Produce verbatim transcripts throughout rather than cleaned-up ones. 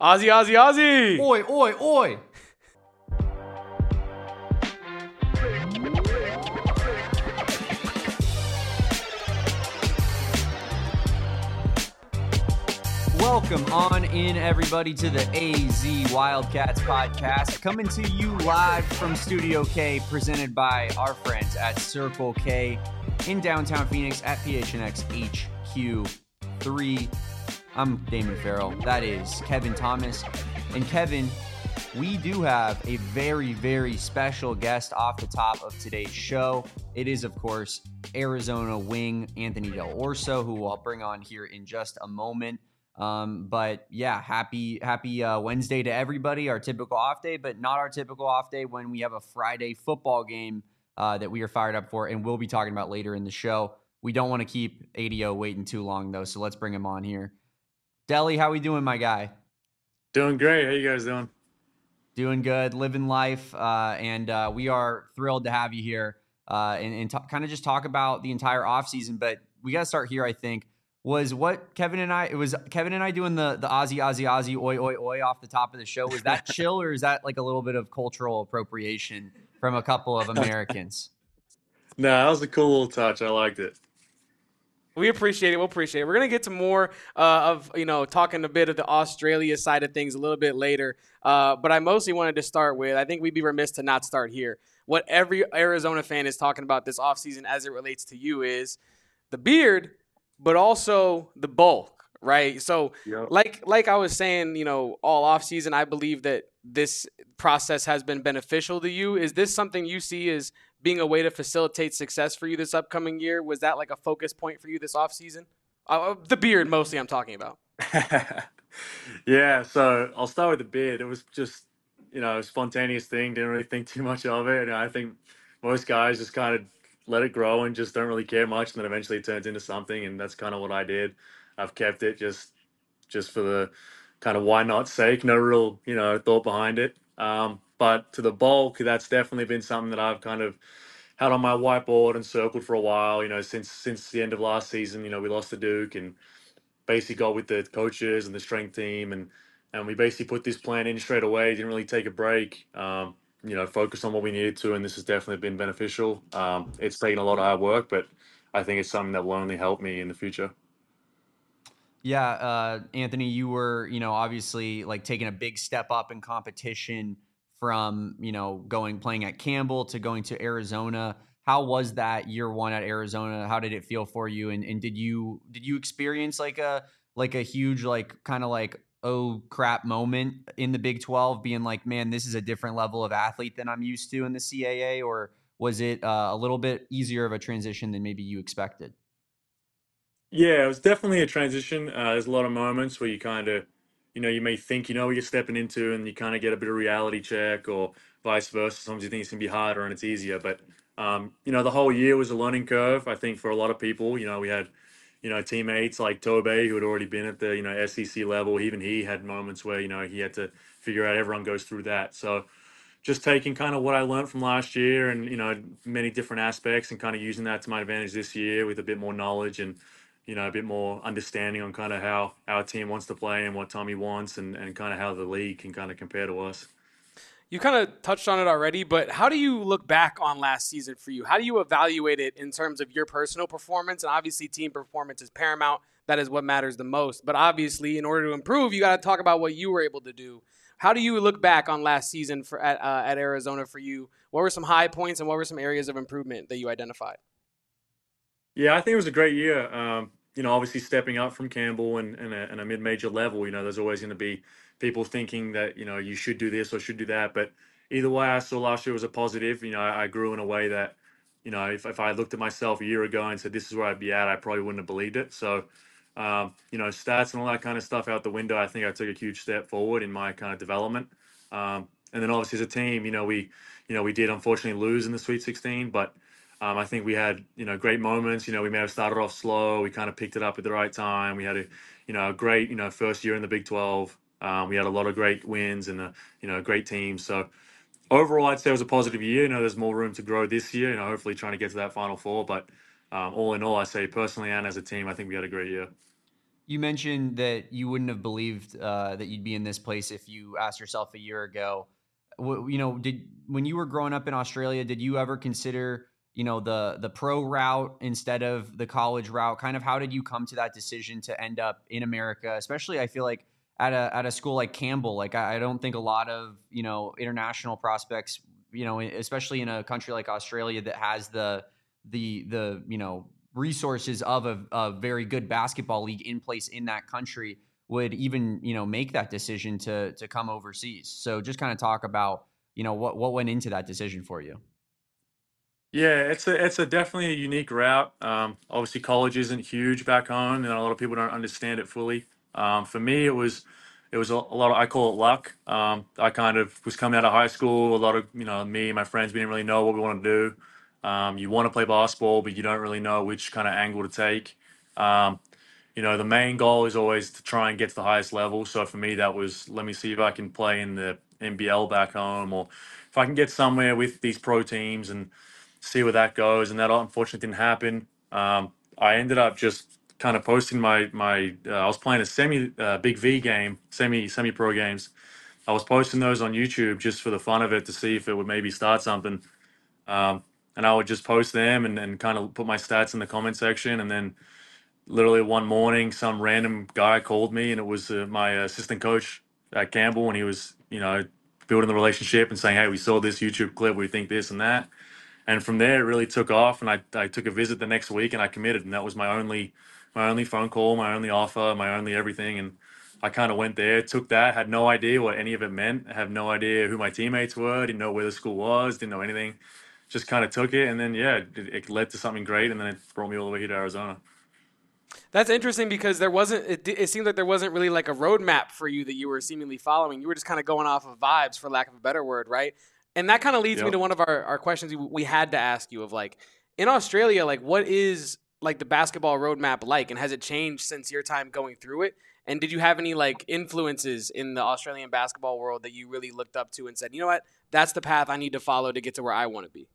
Ozzy, Ozzy, Ozzy! Oi, oi, oi! Welcome on in, everybody, to the A Z Wildcats podcast, coming to you live from Studio K, presented by our friends at Circle K in downtown Phoenix at P H N X H Q three. I'm Damon Farrell. That is Kevin Thomas. And Kevin, we do have a very, very special guest off the top of today's show. It is, of course, Arizona wing Anthony Del Orso, who I'll bring on here in just a moment. Um, but yeah, happy, happy uh, Wednesday to everybody. Our typical off day, but not our typical off day when we have a Friday football game uh, that we are fired up for, and we'll be talking about later in the show. We don't want to keep A D O waiting too long, though, so let's bring him on here. Deli, how we doing, my guy? Doing great. How you guys doing? Doing good, living life, uh, and uh, we are thrilled to have you here uh, and, and t- kind of just talk about the entire offseason. But we got to start here, I think. Was what Kevin and I, it was Kevin and I doing the the Ozzy, Ozzy, Ozzy, oi, oi, oi off the top of the show. Was that chill, or is that like a little bit of cultural appropriation from a couple of Americans? No, that was a cool little touch. I liked it. We appreciate it. We'll appreciate it. We're going to get to more uh, of, you know, talking a bit of the Australia side of things a little bit later. Uh, but I mostly wanted to start with, I think we'd be remiss to not start here. What every Arizona fan is talking about this offseason as it relates to you is the beard, but also the bulk, right? So Yep. like like I was saying, you know, all offseason, I believe that this process has been beneficial to you. Is this something you see as being a way to facilitate success for you this upcoming year? Was that like a focus point for you this offseason? Uh, the beard, mostly, I'm talking about. Yeah, so I'll start with the beard. It was just, you know, a spontaneous thing. Didn't really think too much of it. And I think most guys just kind of let it grow and just don't really care much. And then eventually it turns into something. And that's kind of what I did. I've kept it just just for the kind of why not sake. No real, you know, thought behind it. Um, but to the bulk, that's definitely been something that I've kind of had on my whiteboard and circled for a while. You know, since since the end of last season, you know, we lost to Duke and basically got with the coaches and the strength team, and and we basically put this plan in straight away. Didn't really take a break. Um, you know, focus on what we needed to, and this has definitely been beneficial. Um, it's taken a lot of hard work, but I think it's something that will only help me in the future. Yeah, uh, Anthony, you were, you know, obviously like taking a big step up in competition from, you know, going playing at Campbell to going to Arizona. How was that year one at Arizona? How did it feel for you? And and did you did you experience like a like a huge like kind of like oh crap moment in the Big twelve, being like, man, this is a different level of athlete than I'm used to in the C A A, or was it uh, a little bit easier of a transition than maybe you expected? Yeah, it was definitely a transition. Uh, there's a lot of moments where you kind of, you know, you may think you know what you're stepping into, and you kind of get a bit of reality check, or vice versa. Sometimes you think it's gonna be harder and it's easier, but um, you know, the whole year was a learning curve. I think for a lot of people, you know, we had, you know, teammates like Tobe who had already been at the you know S E C level. Even he had moments where you know he had to figure out. Everyone goes through that, so just taking kind of what I learned from last year and you know many different aspects and kind of using that to my advantage this year with a bit more knowledge and you know a bit more understanding on kind of how our team wants to play and what Tommy wants and, and kind of how the league can kind of compare to us. You kind of touched on it already, but how do you look back on last season for you? How do you evaluate it in terms of your personal performance? And obviously, team performance is paramount. That is what matters the most. But obviously, in order to improve, you got to talk about what you were able to do. How do you look back on last season for at, uh, at Arizona for you? What were some high points and what were some areas of improvement that you identified? Yeah, I think it was a great year. Um, you know, obviously stepping up from Campbell and, and a, and a mid-major level, you know, there's always going to be people thinking that, you know, you should do this or should do that. But either way, I saw last year was a positive. You know, I, I grew in a way that, you know, if, if I looked at myself a year ago and said, this is where I'd be at, I probably wouldn't have believed it. So, um, you know, stats and all that kind of stuff out the window, I think I took a huge step forward in my kind of development. Um, and then obviously as a team, you know, we, you know, we did unfortunately lose in the Sweet sixteen, but um, I think we had, you know, great moments. You know, we may have started off slow. We kind of picked it up at the right time. We had a, you know, a great, you know, first year in the Big twelve. Um, we had a lot of great wins and, a, you know, great teams. So overall, I'd say it was a positive year. You know, there's more room to grow this year. You know, hopefully trying to get to that Final Four. But um, all in all, I say personally and as a team, I think we had a great year. you mentioned that you wouldn't have believed uh, that you'd be in this place if you asked yourself a year ago. W- you know, did when you were growing up in Australia, did you ever consider, you know, the the pro route instead of the college route? Kind of how did you come to that decision to end up in America? Especially, I feel like at a at a school like Campbell, like I, I don't think a lot of, you know, international prospects, you know, especially in a country like Australia that has the the the you know resources of a, a very good basketball league in place in that country, would even, you know, make that decision to to come overseas. So just kind of talk about, you know, what what went into that decision for you. Yeah, it's a it's a definitely a unique route. Um, obviously, college isn't huge back home, and a lot of people don't understand it fully. Um, for me, it was it was a, a lot of, I call it luck. Um, I kind of was coming out of high school. A lot of, you know, me and my friends, we didn't really know what we want to do. Um, you want to play basketball, but you don't really know which kind of angle to take. Um, you know, the main goal is always to try and get to the highest level. So for me, that was, let me see if I can play in the N B L back home, or if I can get somewhere with these pro teams and see where that goes. And that unfortunately didn't happen. Um, I ended up just kind of posting my my. Uh, I was playing a semi uh, big V game, semi semi pro games. I was posting those on YouTube just for the fun of it to see if it would maybe start something. Um, and I would just post them and, and kind of put my stats in the comment section, and then literally one morning, some random guy called me, and it was uh, my assistant coach at Campbell, and he was, you know, building the relationship and saying, "Hey, we saw this YouTube clip. We think this and that." And from there, it really took off. And I, I took a visit the next week, and I committed, and that was my only my only phone call, my only offer, my only everything. And I kind of went there, took that, had no idea what any of it meant. I have no idea who my teammates were, didn't know where the school was, didn't know anything. Just kind of took it, and then yeah, it, it led to something great, and then it brought me all the way here to Arizona. That's interesting because there wasn't. It, it seemed like there wasn't really like a roadmap for you that you were seemingly following. You were just kind of going off of vibes, for lack of a better word, right? And that kind of leads me Yep. to one of our, our questions we, we had to ask you of like in Australia, like what is like the basketball roadmap like, and has it changed since your time going through it? And did you have any like influences in the Australian basketball world that you really looked up to and said, you know what, that's the path I need to follow to get to where I want to be?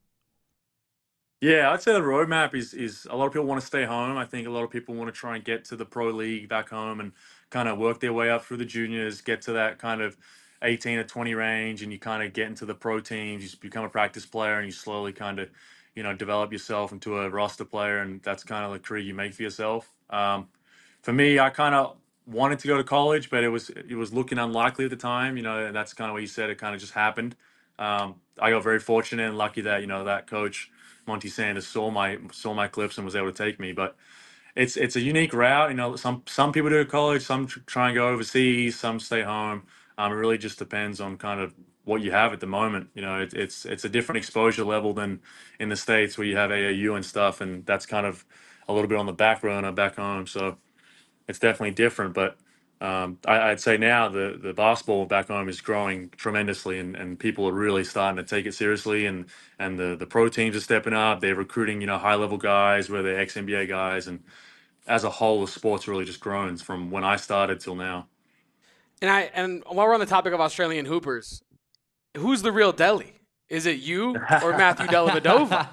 Yeah, I'd say the roadmap is is a lot of people want to stay home. I think a lot of people want to try and get to the pro league back home and kind of work their way up through the juniors, get to that kind of eighteen or twenty range, and you kind of get into the pro teams. You just become a practice player, and you slowly kind of, you know, develop yourself into a roster player, and that's kind of the career you make for yourself. Um, for me, I kind of wanted to go to college, but it was it was looking unlikely at the time. You know, and that's kind of what you said. It kind of just happened. Um, I got very fortunate and lucky that, you know, that coach Monty Sanders saw my saw my clips and was able to take me. But it's it's a unique route. You know, some some people do college, some tr- try and go overseas, some stay home. Um, it really just depends on kind of what you have at the moment. You know, it, it's it's a different exposure level than in the States where you have A A U and stuff, and that's kind of a little bit on the back burner back home. So it's definitely different. But um, I, I'd say now the the basketball back home is growing tremendously, and, and people are really starting to take it seriously. And and the the pro teams are stepping up. They're recruiting, you know, high level guys, where they're ex N B A guys, and as a whole, the sport's really just grown from when I started till now. And I and while we're on the topic of Australian hoopers, who's the real Delhi? Is it you or Matthew Dellavedova?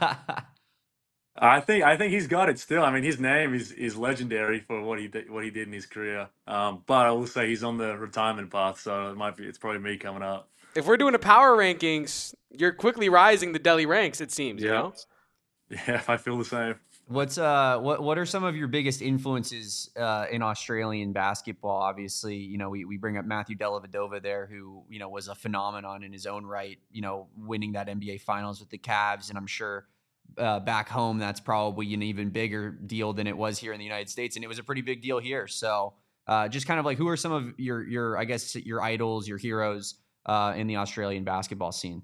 I think I think he's got it still. I mean, his name is is legendary for what he did, what he did in his career. Um, but I will say he's on the retirement path, so it might be it's probably me coming up. If we're doing a power rankings, you're quickly rising the Delhi ranks, it seems, you Yeah, know? yeah, I feel the same. What's uh what what are some of your biggest influences uh, in Australian basketball? Obviously, you know, we, we bring up Matthew Dellavedova there, who, you know, was a phenomenon in his own right, you know, winning that N B A finals with the Cavs. And I'm sure uh, back home that's probably an even bigger deal than it was here in the United States. And it was a pretty big deal here. So uh, just kind of like, who are some of your your I guess your idols, your heroes uh, in the Australian basketball scene?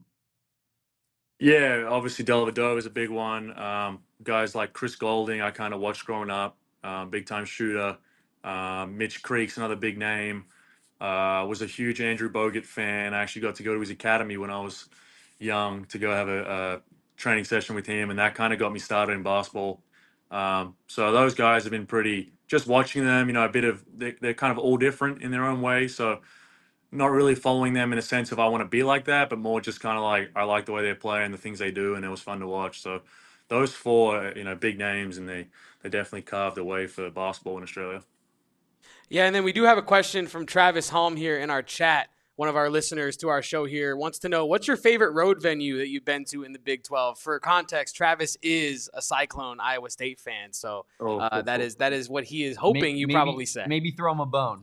Yeah, obviously Dellavedova is a big one. Um, guys like Chris Golding, I kind of watched growing up, um, big time shooter. Um, Mitch Creek's another big name. Uh, was a huge Andrew Bogut fan. I actually got to go to his academy when I was young to go have a, a training session with him, and that kind of got me started in basketball. Um, so those guys have been pretty. Just watching them, you know, a bit of they, they're kind of all different in their own way. So not really following them in a sense of I want to be like that, but more just kind of like I like the way they play and the things they do, and it was fun to watch. So those four, you know, big names, and they they definitely carved the way for basketball in Australia. Yeah, and then we do have a question from Travis Holm here in our chat. One of our listeners to our show here wants to know, what's your favorite road venue that you've been to in the Big twelve? For context, Travis is a Cyclone Iowa State fan, so Oh, uh, cool, that cool. is that is what he is hoping you maybe, probably say. Maybe throw him a bone.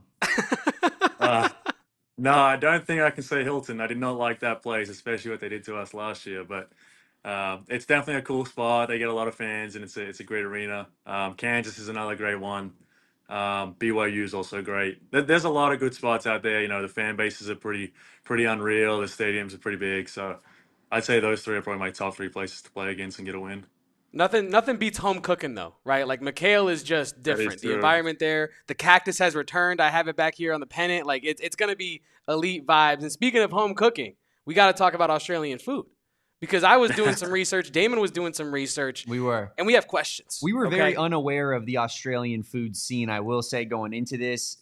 uh, no, I don't think I can say Hilton. I did not like that place, especially what they did to us last year. But um, it's definitely a cool spot. They get a lot of fans, and it's a it's a great arena. Um, Kansas is another great one. Um, B Y U is also great. There- There's a lot of good spots out there. You know, the fan bases are pretty pretty unreal. The stadiums are pretty big. So I'd say those three are probably my top three places to play against and get a win. Nothing nothing beats home cooking though, right? Like McHale is just That is different. The true. environment there, the cactus has returned. I have it back here on the pennant. Like it's it's gonna be elite vibes. And speaking of home cooking, we got to talk about Australian food because I was doing some research. Damon was doing some research. We were. And we have questions. We were okay? very unaware of the Australian food scene, I will say, going into this.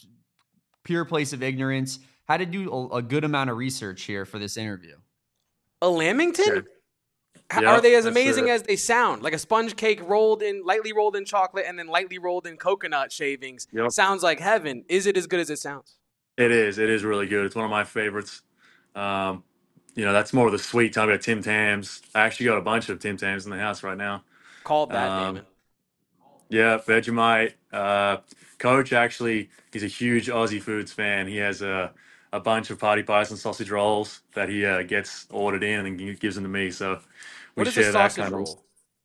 Pure place of ignorance. Had to do a, a good amount of research here for this interview. A lamington? Yeah. H- Yep, Are they as that's amazing it. as they sound? Like a sponge cake rolled in, lightly rolled in chocolate, and then lightly rolled in coconut shavings. Yep. Sounds like heaven. Is it as good as it sounds? It is. It is really good. It's one of my favorites. Um, you know, that's more of the sweet time. We got Tim Tams. I actually got a bunch of Tim Tams in the house right now. Called that, Um, Damon. yeah, Vegemite. Uh, Coach actually, he's a huge Aussie foods fan. He has a a bunch of party pies and sausage rolls that he uh, gets ordered in and he gives them to me. So we What is a share that sausage kind of. roll?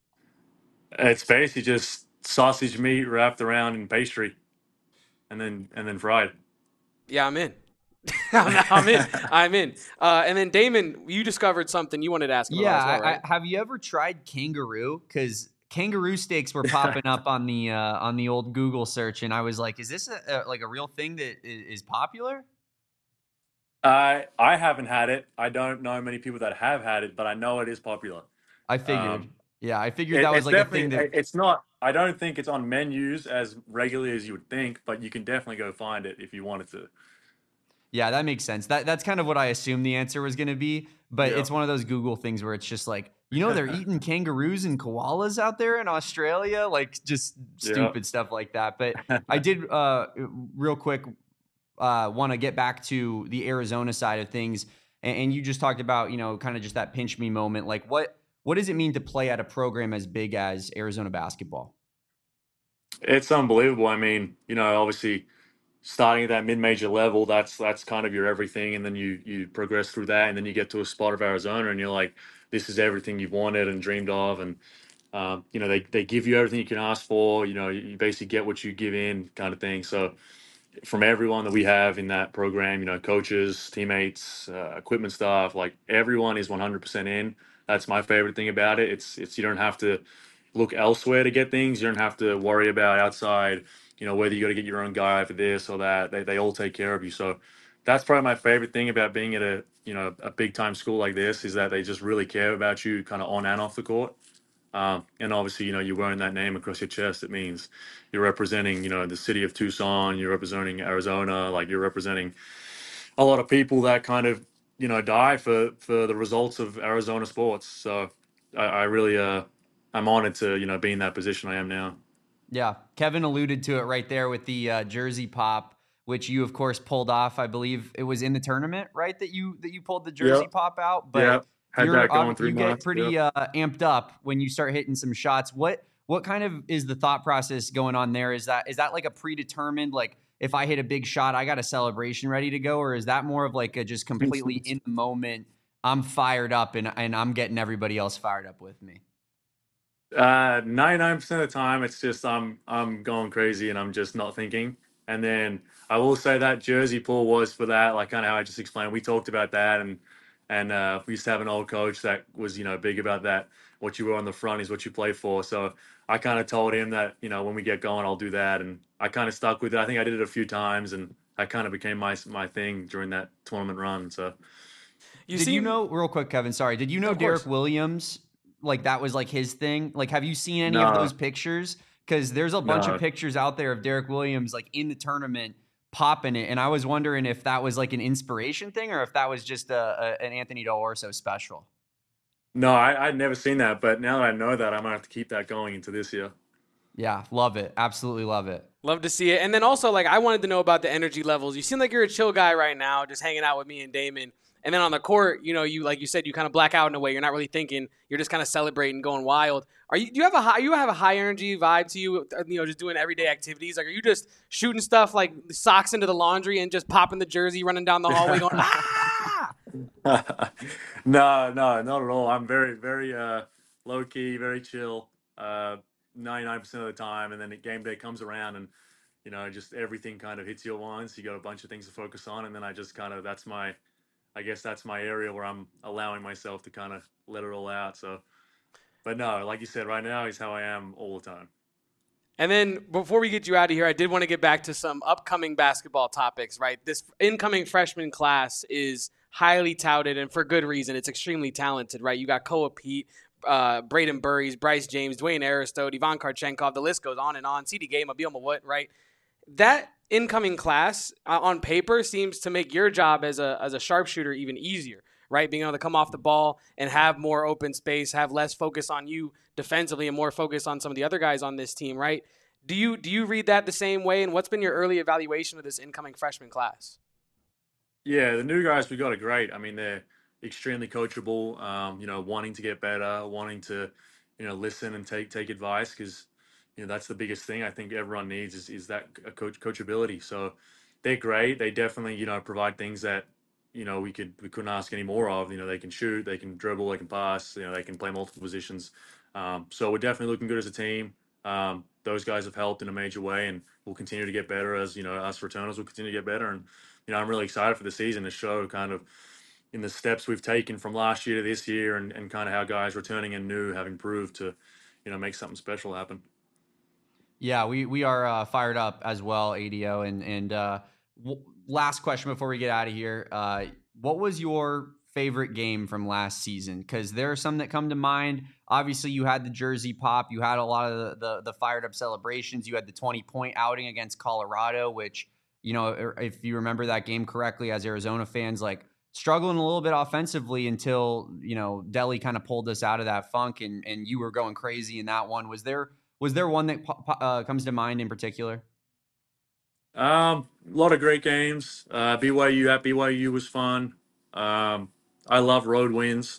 It's basically just sausage meat wrapped around in pastry, and then and then fried. Yeah, I'm in. I'm, I'm in. I'm in. Uh, and then Damon, you discovered something you wanted to ask about Yeah, as well, right? I, I, have you ever tried kangaroo? Because kangaroo steaks were popping up on the uh, on the old Google search, and I was like, "Is this a, a, like a real thing that is, is popular?" I I haven't had it. I don't know many people that have had it, but I know it is popular. I figured. Um, yeah, I figured it, that was it's like a definitely thing that. it's not. I don't think it's on menus as regularly as you would think, but you can definitely go find it if you wanted to. Yeah, that makes sense. That that's kind of what I assumed the answer was going to be. But Yeah. it's one of those Google things where it's just like, you know, they're eating kangaroos and koalas out there in Australia, like just Yeah. stupid stuff like that. But I did, uh, real quick, uh, want to get back to the Arizona side of things. And, and you just talked about, you know, kind of just that pinch me moment. Like, what what does it mean to play at a program as big as Arizona basketball? It's unbelievable. I mean, you know, obviously starting at that mid-major level, that's that's kind of your everything, and then you you progress through that, and then you get to a spot of Arizona, and you're like, this is everything you've wanted and dreamed of, and um, you know, they they give you everything you can ask for. You know, you, you basically get what you give in, kind of thing. So from everyone that we have in that program, you know, coaches, teammates, uh, equipment staff, like everyone is one hundred percent in. That's my favorite thing about it. It's it's you don't have to look elsewhere to get things. You don't have to worry about outside, you know, whether you got to get your own guy for this or that. They they all take care of you. So that's probably my favorite thing about being at a, you know, a big time school like this is that they just really care about you kind of on and off the court. Um, and obviously, you know, you're wearing that name across your chest. It means you're representing, you know, the city of Tucson, you're representing Arizona, like you're representing a lot of people that kind of, you know, die for, for the results of Arizona sports. So I, I really, uh, I'm honored to, you know, be in that position I am now. Yeah, Kevin alluded to it right there with the uh, jersey pop, which you of course pulled off. I believe it was in the tournament, right? That you that you pulled the jersey Yep. pop out. But Yeah. Had you're that going ob- three you get months. pretty Yep. uh, amped up when you start hitting some shots. What what kind of is the thought process going on there? Is that is that like a predetermined, like if I hit a big shot, I got a celebration ready to go, or is that more of like a just completely in the moment? I'm fired up and and I'm getting everybody else fired up with me. Uh, ninety-nine percent of the time, it's just I'm I'm going crazy and I'm just not thinking. And then I will say that jersey pull was for that, like kind of how I just explained. We talked about that, and and uh, we used to have an old coach that was, you know, big about that. What you were on the front is what you play for. So I kind of told him that, you know, when we get going, I'll do that, and I kind of stuck with it. I think I did it a few times, and that kind of became my my thing during that tournament run. So You Did seem you know, real quick, Kevin? Sorry, did you know Of course. Derek Williams? Like that was like his thing. Like, have you seen any of No. those pictures? Because there's a bunch No. of pictures out there of Derek Williams like in the tournament popping it, and I was wondering if that was like an inspiration thing or if that was just a, a, an Anthony D'Orso special. no, I, I'd never seen that, but now that I know that, I'm gonna have to keep that going into this year. Yeah, love it. Absolutely love it. Love to see it. And then also, like, I wanted to know about the energy levels. You seem like you're a chill guy right now, just hanging out with me and Damon. And then on the court, you know, you like you said, you kind of black out in a way. You're not really thinking. You're just kind of celebrating, going wild. Are you? Do you have a high? You have a high energy vibe to you? You know, just doing everyday activities. Like, are you just shooting stuff like socks into the laundry and just popping the jersey, running down the hallway, going ah? no, no, not at all. I'm very, very uh, low key, very chill. Uh, ninety-nine percent of the time, and then the game day comes around, and you know, just everything kind of hits you at once. You got a bunch of things to focus on, and then I just kind of that's my I guess that's my area where I'm allowing myself to kind of let it all out. So, but no, like you said, right now is how I am all the time. And then before we get you out of here, I did want to get back to some upcoming basketball topics, right? This incoming freshman class is highly touted, and for good reason. It's extremely talented, right? You got Koa Pete, uh, Braden Burries, Bryce James, Dwayne Aristote, Ivan Karchenkov. The list goes on and on. C D Gay, Mobile Mawut, right? That incoming class uh, on paper seems to make your job as a as a sharpshooter even easier, right? Being able to come off the ball and have more open space, have less focus on you defensively and more focus on some of the other guys on this team, right? Do you do you read that the same way? And what's been your early evaluation of this incoming freshman class? Yeah, the new guys we got are great. I mean, they're extremely coachable. Um, you know, wanting to get better, wanting to, you know, listen and take take advice because, you know, that's the biggest thing I think everyone needs is is that coach coachability. So they're great. They definitely, you know, provide things that, you know, we could we couldn't ask any more of. You know, they can shoot, they can dribble, they can pass. You know, they can play multiple positions. Um, so we're definitely looking good as a team. Um, those guys have helped in a major way, and we'll continue to get better as you know us returners will continue to get better. And you know, I'm really excited for the season to show kind of in the steps we've taken from last year to this year, and, and kind of how guys returning and new have improved to, you know, make something special happen. Yeah, we we are uh, fired up as well, A D O. And and uh, w- last question before we get out of here: uh, what was your favorite game from last season? Because there are some that come to mind. Obviously, you had the jersey pop. You had a lot of the, the the fired up celebrations. You had the twenty point outing against Colorado, which, you know, if you remember that game correctly, as Arizona fans, like struggling a little bit offensively until, you know, Delhi kind of pulled us out of that funk, and and you were going crazy in that one. Was there was there one that uh, comes to mind in particular? Um, a lot of great games. Uh, B Y U at B Y U was fun. Um, I love road wins.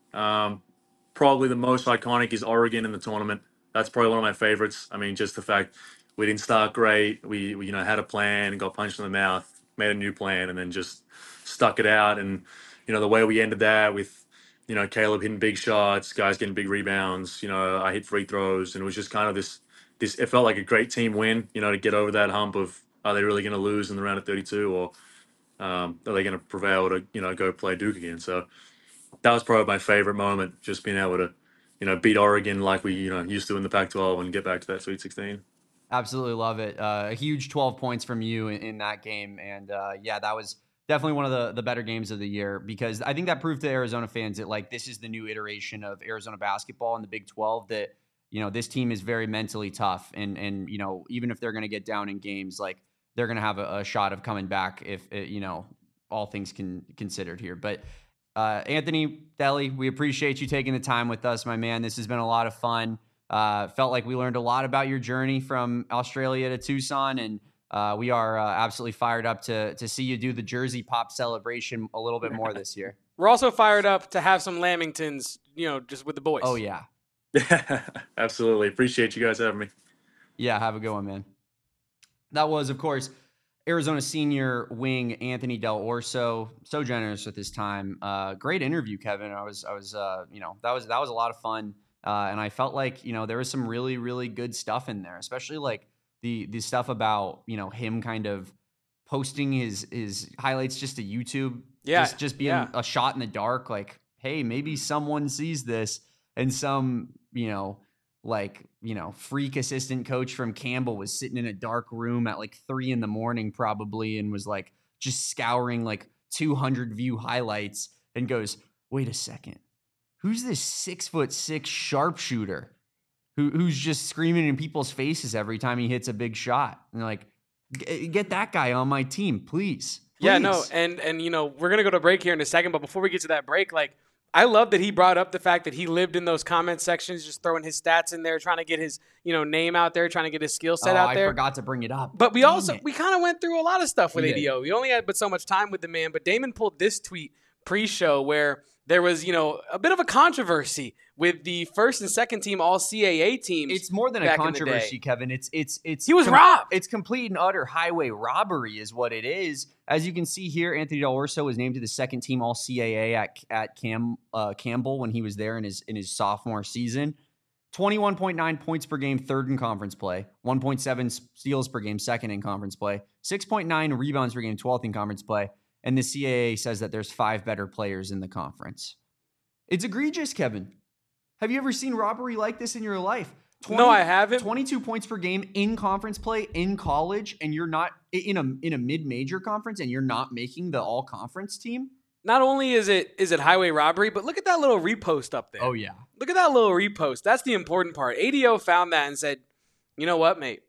Um, probably the most iconic is Oregon in the tournament. That's probably one of my favorites. I mean, just the fact we didn't start great. We, we you know had a plan and got punched in the mouth, made a new plan, and then just stuck it out. And you know the way we ended that with you know Caleb hitting big shots, guys getting big rebounds. You know I hit free throws, and it was just kind of this this. It felt like a great team win. You know to get over that hump of are they really going to lose in the round of thirty-two, or um, are they going to prevail to you know go play Duke again? So that was probably my favorite moment, just being able to, you know, beat Oregon like we, you know, used to in the Pac twelve and get back to that Sweet sixteen. Absolutely love it. Uh, a huge twelve points from you in, in that game. And uh, yeah, that was definitely one of the, the better games of the year, because I think that proved to Arizona fans that, like, this is the new iteration of Arizona basketball in the Big twelve, that, you know, this team is very mentally tough. And, and you know, even if they're going to get down in games, like, they're going to have a, a shot of coming back if, it, you know, all things can considered here. But Uh, Anthony Delhi, we appreciate you taking the time with us, my man. This has been a lot of fun. Uh, felt like we learned a lot about your journey from Australia to Tucson, and uh, we are uh, absolutely fired up to to see you do the Jersey Pop celebration a little bit more this year. We're also fired up to have some Lamingtons, you know, just with the boys. Oh, yeah. Absolutely. Appreciate you guys having me. Yeah, have a good one, man. That was, of course, Arizona senior wing Anthony Del Orso, so generous with his time. Uh, great interview, Kevin. I was, I was, uh, you know, that was that was a lot of fun, uh, and I felt like, you know, there was some really, really good stuff in there, especially like the the stuff about, you know, him kind of posting his his highlights just to YouTube, yeah, just just being yeah. a shot in the dark. Like, hey, maybe someone sees this, and some, you know. like, you know, freak assistant coach from Campbell was sitting in a dark room at like three in the morning probably, and was like just scouring like two hundred view highlights and goes, wait a second, who's this six foot six sharpshooter who who's just screaming in people's faces every time he hits a big shot? And like, get that guy on my team, please. please. Yeah, no. And, and, you know, we're going to go to break here in a second, but before we get to that break, like, I love that he brought up the fact that he lived in those comment sections, just throwing his stats in there, trying to get his, you know, name out there, trying to get his skill set oh, out there. I forgot to bring it up. But we Damn also, it. we kind of went through a lot of stuff with We A D O. did. We only had but so much time with the man, but Damon pulled this tweet pre-show where there was, you know, a bit of a controversy with the first and second team all C A A teams. It's more than a back in the controversy, day. Kevin. It's it's it's He was robbed. It's complete and utter highway robbery, is what it is. As you can see here, Anthony Del Orso was named to the second team All C A A at at Cam uh, Campbell when he was there in his in his sophomore season. twenty-one point nine points per game, third in conference play. one point seven steals per game, second in conference play. six point nine rebounds per game, twelfth in conference play. And the C A A says that there's five better players in the conference. It's egregious, Kevin. Have you ever seen robbery like this in your life? twenty, No, I haven't. twenty-two points per game in conference play in college, and you're not in a in a mid-major conference, and you're not making the all-conference team? Not only is it is it highway robbery, but look at that little repost up there. Oh, yeah. Look at that little repost. That's the important part. A D O found that and said, you know what, mate?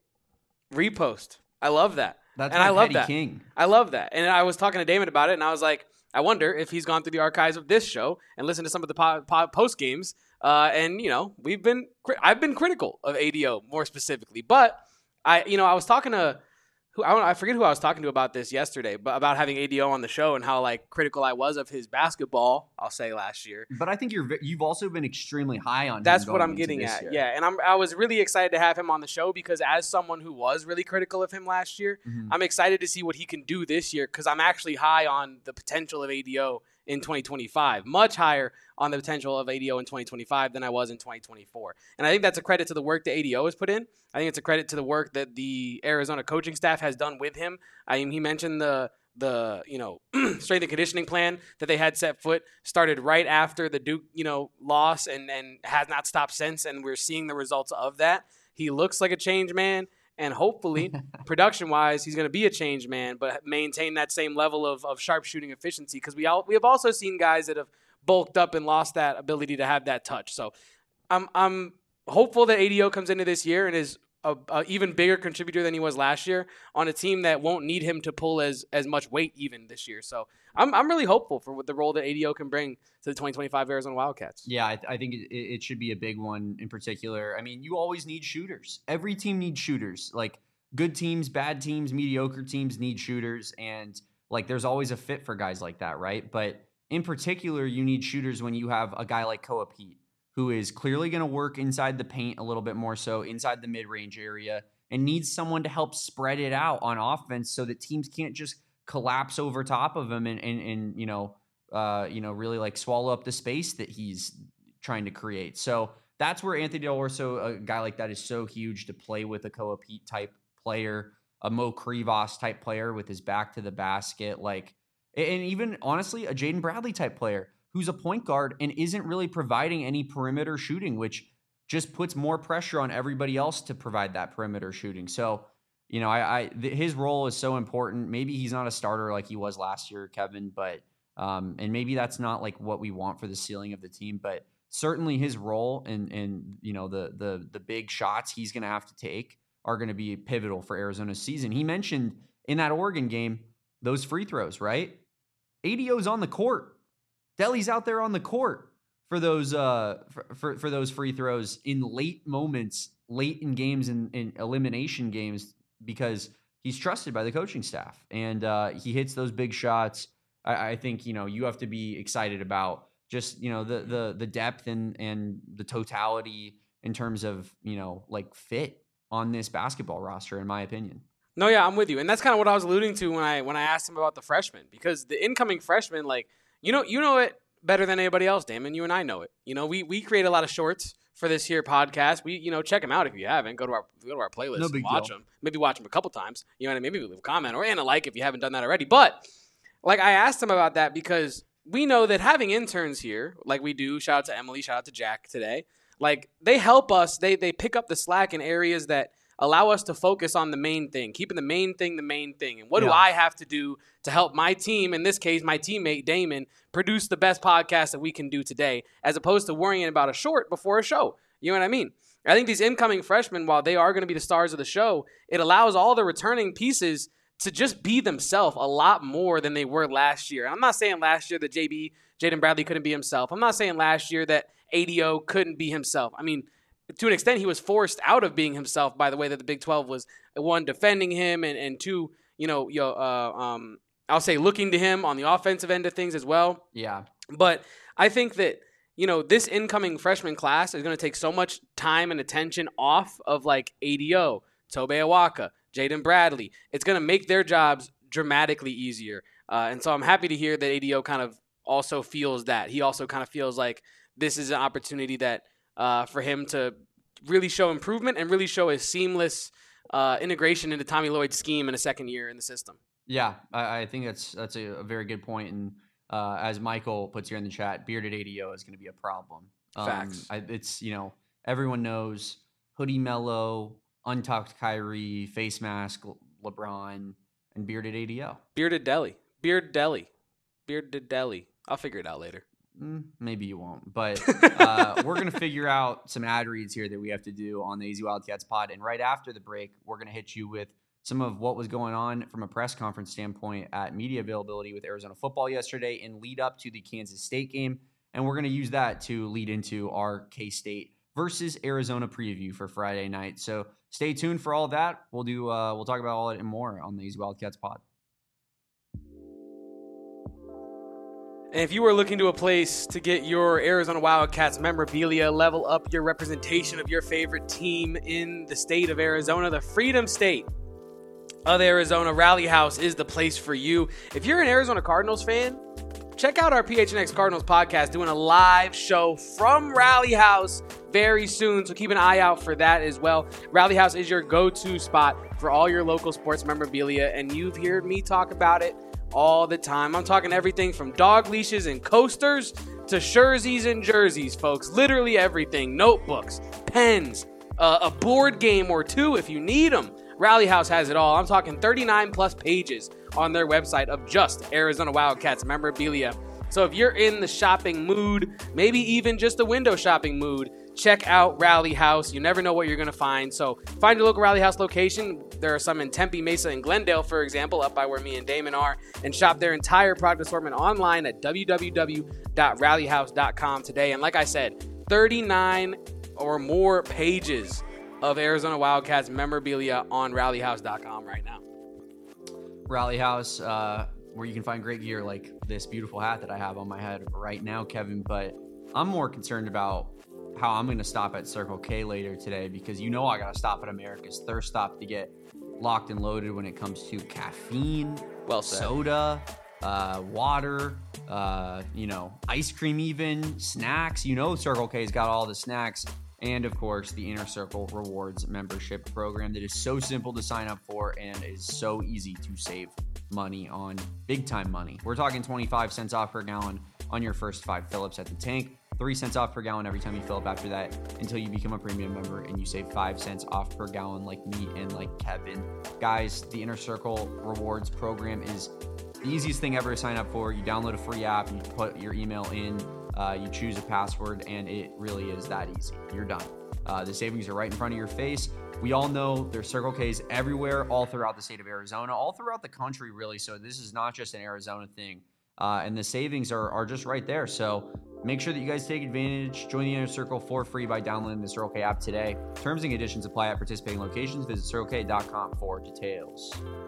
Repost. I love that. That's and my I love petty that. king. I love that. And I was talking to Damon about it, and I was like, I wonder if he's gone through the archives of this show and listened to some of the po- po- post games. Uh, and you know, we've been cri- I've been critical of A D O more specifically, but I you know I was talking to who I, don't, I forget who I was talking to about this yesterday, but about having A D O on the show and how like critical I was of his basketball. I'll say last year. But I think you're ve- you've also been extremely high on him That's what going I'm into getting this at. year. Yeah, and I'm I was really excited to have him on the show because as someone who was really critical of him last year, Mhm. I'm excited to see what he can do this year because I'm actually high on the potential of A D O in twenty twenty-five, much higher on the potential of A D O in twenty twenty-five than I was in twenty twenty-four. And I think that's a credit to the work that A D O has put in. I think it's a credit to the work that the Arizona coaching staff has done with him. I mean, he mentioned the the you know strength and conditioning plan that they had set foot started right after the Duke you know loss and and has not stopped since, and we're seeing the results of that. He looks like a changed man. And hopefully, production-wise, he's going to be a changed man, but maintain that same level of, of sharp shooting efficiency. Because we all we have also seen guys that have bulked up and lost that ability to have that touch. So I'm I'm hopeful that A D O comes into this year and is a, a even bigger contributor than he was last year on a team that won't need him to pull as as much weight even this year. So I'm I'm really hopeful for what the role that A D O can bring to the twenty twenty-five Arizona Wildcats. Yeah, I, I think it, it should be a big one in particular. I mean, you always need shooters. Every team needs shooters. Like good teams, bad teams, mediocre teams need shooters. And like there's always a fit for guys like that, right? But in particular, you need shooters when you have a guy like Koa Pete, who is clearly going to work inside the paint a little bit more so, inside the mid-range area, and needs someone to help spread it out on offense so that teams can't just collapse over top of him and, and, and you know, uh, you know, really like swallow up the space that he's trying to create. So that's where Anthony Del Orso, a guy like that, is so huge to play with a Koa Pete type player, a Mo Krivos type player with his back to the basket, like, and even honestly, a Jaden Bradley type player who's a point guard and isn't really providing any perimeter shooting, which just puts more pressure on everybody else to provide that perimeter shooting. So, you know, I, I th- his role is so important. Maybe he's not a starter like he was last year, Kevin, but um, and maybe that's not like what we want for the ceiling of the team, but certainly his role and and you know the the the big shots he's going to have to take are going to be pivotal for Arizona's season. He mentioned in that Oregon game those free throws, right? A D O's on the court. Delly's out there on the court for those uh for, for, for those free throws in late moments, late in games and in, in elimination games, because he's trusted by the coaching staff and uh, he hits those big shots. I, I think you know you have to be excited about just you know the the the depth and and the totality in terms of you know like fit on this basketball roster, in my opinion. No, yeah, I'm with you, and that's kind of what I was alluding to when I when I asked him about the freshmen, because the incoming freshmen, like you know, you know it better than anybody else, Damon. You and I know it. You know, we we create a lot of shorts for this here podcast. We you know check them out if you haven't. Go to our go to our playlist No and big watch deal. them. Maybe watch them a couple times. You know what I mean? Maybe leave a comment or and a like if you haven't done that already. But like I asked him about that because we know that having interns here, like we do. Shout out to Emily. Shout out to Jack today. Like they help us. They they pick up the slack in areas that allow us to focus on the main thing, keeping the main thing the main thing. And what do Yeah. I have to do to help my team, in this case, my teammate Damon, produce the best podcast that we can do today, as opposed to worrying about a short before a show? You know what I mean? I think these incoming freshmen, while they are going to be the stars of the show, it allows all the returning pieces to just be themselves a lot more than they were last year. And I'm not saying last year that J B, Jaden Bradley couldn't be himself. I'm not saying last year that A D O couldn't be himself. I mean, to an extent, he was forced out of being himself by the way that the Big twelve was, one, defending him, and, and two, you know, yo, uh, um, I'll say looking to him on the offensive end of things as well. Yeah. But I think that, you know, this incoming freshman class is going to take so much time and attention off of like A D O, Tobe Awaka, Jaden Bradley. It's going to make their jobs dramatically easier. Uh, and so I'm happy to hear that A D O kind of also feels that. He also kind of feels like this is an opportunity that uh, for him to really show improvement and really show a seamless uh, integration into Tommy Lloyd's scheme in a second year in the system. Yeah, I, I think that's that's a, a very good point. And uh, as Michael puts here in the chat, bearded A D O is going to be a problem. Um, Facts. I, it's, you know, everyone knows Hoodie Mello, Untucked Kyrie, Face Mask LeBron, and bearded A D O. Bearded Deli. Beard Deli. Bearded Deli. I'll figure it out later. Mm, maybe you won't, but uh, we're going to figure out some ad reads here that we have to do on the A Z Wildcats pod. And right after the break, we're going to hit you with some of what was going on from a press conference standpoint at media availability with Arizona football yesterday and lead up to the Kansas State game. And we're going to use that to lead into our K-State versus Arizona preview for Friday night. So stay tuned for all of that. We'll do. Uh, we'll talk about all that and more on the A Z Wildcats pod. And if you are looking to a place to get your Arizona Wildcats memorabilia, level up your representation of your favorite team in the state of Arizona, the Freedom State of Arizona, Rally House is the place for you. If you're an Arizona Cardinals fan, check out our P H N X Cardinals podcast doing a live show from Rally House very soon, so keep an eye out for that as well. Rally House is your go-to spot for all your local sports memorabilia, and you've heard me talk about it all the time. I'm talking everything from dog leashes and coasters to jerseys and jerseys, folks. Literally everything. Notebooks, pens, uh, a board game or two if you need them. Rally House has it all. I'm talking thirty-nine plus pages on their website of just Arizona Wildcats memorabilia. So if you're in the shopping mood, maybe even just a window shopping mood, check out Rally House. You never know what you're going to find. So find your local Rally House location. There are some in Tempe, Mesa, and Glendale, for example, up by where me and Damon are. And shop their entire product assortment online at w w w dot rally house dot com today. And like I said, thirty-nine or more pages of Arizona Wildcats memorabilia on rally house dot com right now. Rally House, uh, where you can find great gear like this beautiful hat that I have on my head right now, Kevin. But I'm more concerned about how I'm going to stop at Circle K later today, because you know I got to stop at America's Thirst Stop to get locked and loaded when it comes to caffeine, well said. soda, uh, water, uh, you know, ice cream, even snacks. You know, Circle K's got all the snacks. And of course, the Inner Circle Rewards membership program that is so simple to sign up for and is so easy to save money on, big time money. We're talking twenty-five cents off per gallon on your first five fill-ups at the tank, three cents off per gallon every time you fill up after that, until you become a premium member and you save five cents off per gallon like me and like Kevin. Guys, the Inner Circle Rewards program is the easiest thing ever to sign up for. You download a free app, you put your email in, uh, you choose a password, and it really is that easy. You're done. Uh, the savings are right in front of your face. We all know there's Circle K's everywhere, all throughout the state of Arizona, all throughout the country, really. So this is not just an Arizona thing. Uh, and the savings are, are just right there. So make sure that you guys take advantage. Join the Inner Circle for free by downloading the Circle K app today. Terms and conditions apply at participating locations. Visit circle k dot com for details.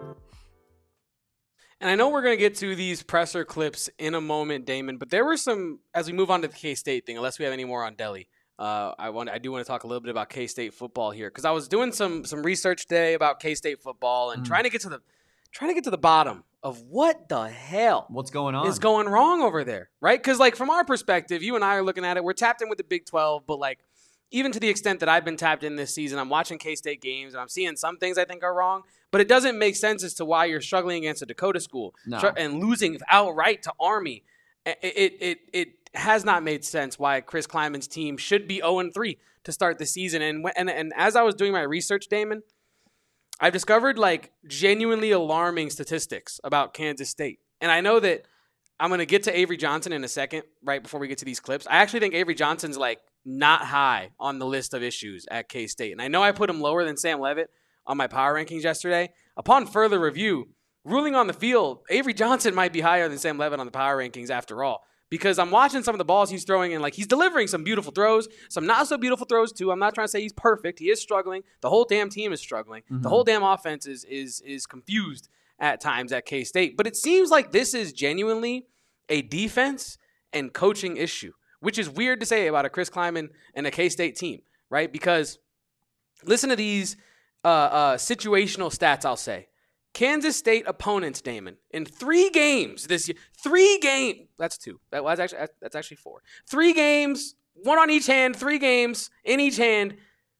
And I know we're going to get to these presser clips in a moment, Damon, but there were some, as we move on to the K-State thing, unless we have any more on Delhi, uh, I want I do want to talk a little bit about K-State football here, because I was doing some some research today about K-State football and mm. trying to get to the trying to get to the bottom of what the hell what's going on is going wrong over there, right? Because like from our perspective, you and I are looking at it, we're tapped in with the Big twelve, but like even to the extent that I've been tapped in this season, I'm watching K-State games and I'm seeing some things I think are wrong, but it doesn't make sense as to why you're struggling against a Dakota school no. and losing outright to Army. It, it it it has not made sense why Chris Kleiman's team should be oh and three to start the season. And and and as I was doing my research, Damon, I've discovered like genuinely alarming statistics about Kansas State. And I know that I'm going to get to Avery Johnson in a second, right before we get to these clips. I actually think Avery Johnson's like not high on the list of issues at K-State. And I know I put him lower than Sam Leavitt on my power rankings yesterday. Upon further review, ruling on the field, Avery Johnson might be higher than Sam Levitt on the power rankings after all. Because I'm watching some of the balls he's throwing and like he's delivering some beautiful throws, some not so beautiful throws too. I'm not trying to say he's perfect. He is struggling. The whole damn team is struggling. Mm-hmm. The whole damn offense is is is confused at times at K-State. But it seems like this is genuinely a defense and coaching issue, which is weird to say about a Chris Klieman and a K-State team, right? Because listen to these uh, uh, situational stats, I'll say. Kansas State opponents, Damon, in three games this year. Three games. That's two. That was actually that's actually four. Three games, one on each hand. Three games in each hand.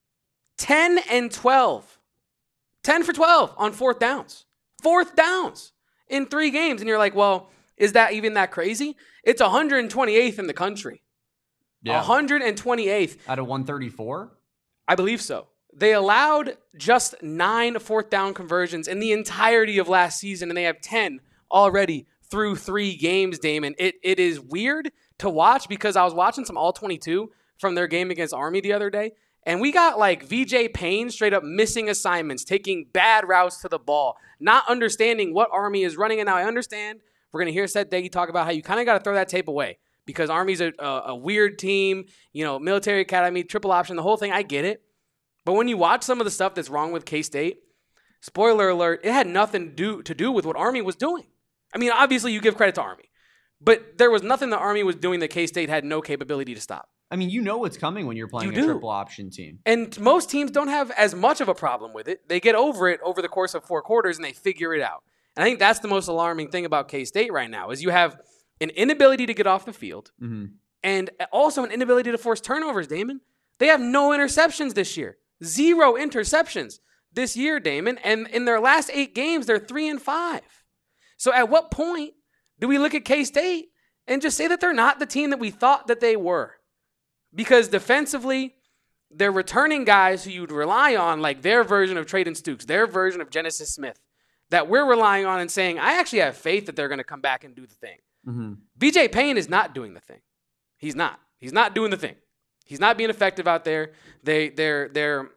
Ten and twelve. Ten for twelve on fourth downs. Fourth downs in three games, and you're like, well, is that even that crazy? It's one hundred twenty-eighth in the country. Yeah. one hundred twenty-eighth out of one thirty-four. I believe so. They allowed just nine fourth down conversions in the entirety of last season, and they have ten already through three games, Damon. It It is weird to watch because I was watching some all twenty-two from their game against Army the other day, and we got like V J Payne straight up missing assignments, taking bad routes to the ball, not understanding what Army is running. And now I understand we're going to hear Seth Deggy talk about how you kind of got to throw that tape away because Army's a, a, a weird team, you know, military academy, triple option, the whole thing. I get it. But when you watch some of the stuff that's wrong with K-State, spoiler alert, it had nothing to do, to do with what Army was doing. I mean, obviously you give credit to Army, but there was nothing the Army was doing that K-State had no capability to stop. I mean, you know what's coming when you're playing you a do. triple option team. And most teams don't have as much of a problem with it. They get over it over the course of four quarters and they figure it out. And I think that's the most alarming thing about K-State right now is you have an inability to get off the field mm-hmm. and also an inability to force turnovers, Damon. They have no interceptions this year. Zero interceptions this year, Damon. And in their last eight games, they're three and five. So at what point do we look at K-State and just say that they're not the team that we thought that they were? Because defensively, they're returning guys who you'd rely on, like their version of Trayden Stukes, their version of Genesis Smith, that we're relying on and saying, I actually have faith that they're going to come back and do the thing. Mm-hmm. V J Payne is not doing the thing. He's not. He's not doing the thing. He's not being effective out there. They, they're they're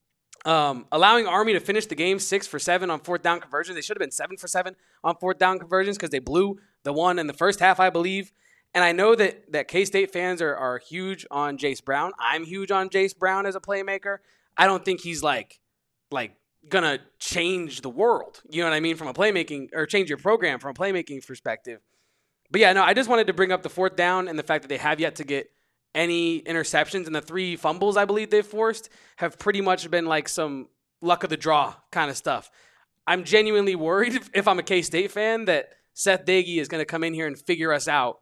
um, allowing Army to finish the game six for seven on fourth down conversions. They should have been seven for seven on fourth down conversions because they blew the one in the first half, I believe. And I know that that K-State fans are, are huge on Jace Brown. I'm huge on Jace Brown as a playmaker. I don't think he's like like gonna change the world. You know what I mean? From a playmaking or change your program from a playmaking perspective. But yeah, no, I just wanted to bring up the fourth down and the fact that they have yet to get any interceptions, and the three fumbles I believe they've forced have pretty much been like some luck of the draw kind of stuff. I'm genuinely worried if, if I'm a K-State fan that Seth Deggy is going to come in here and figure us out.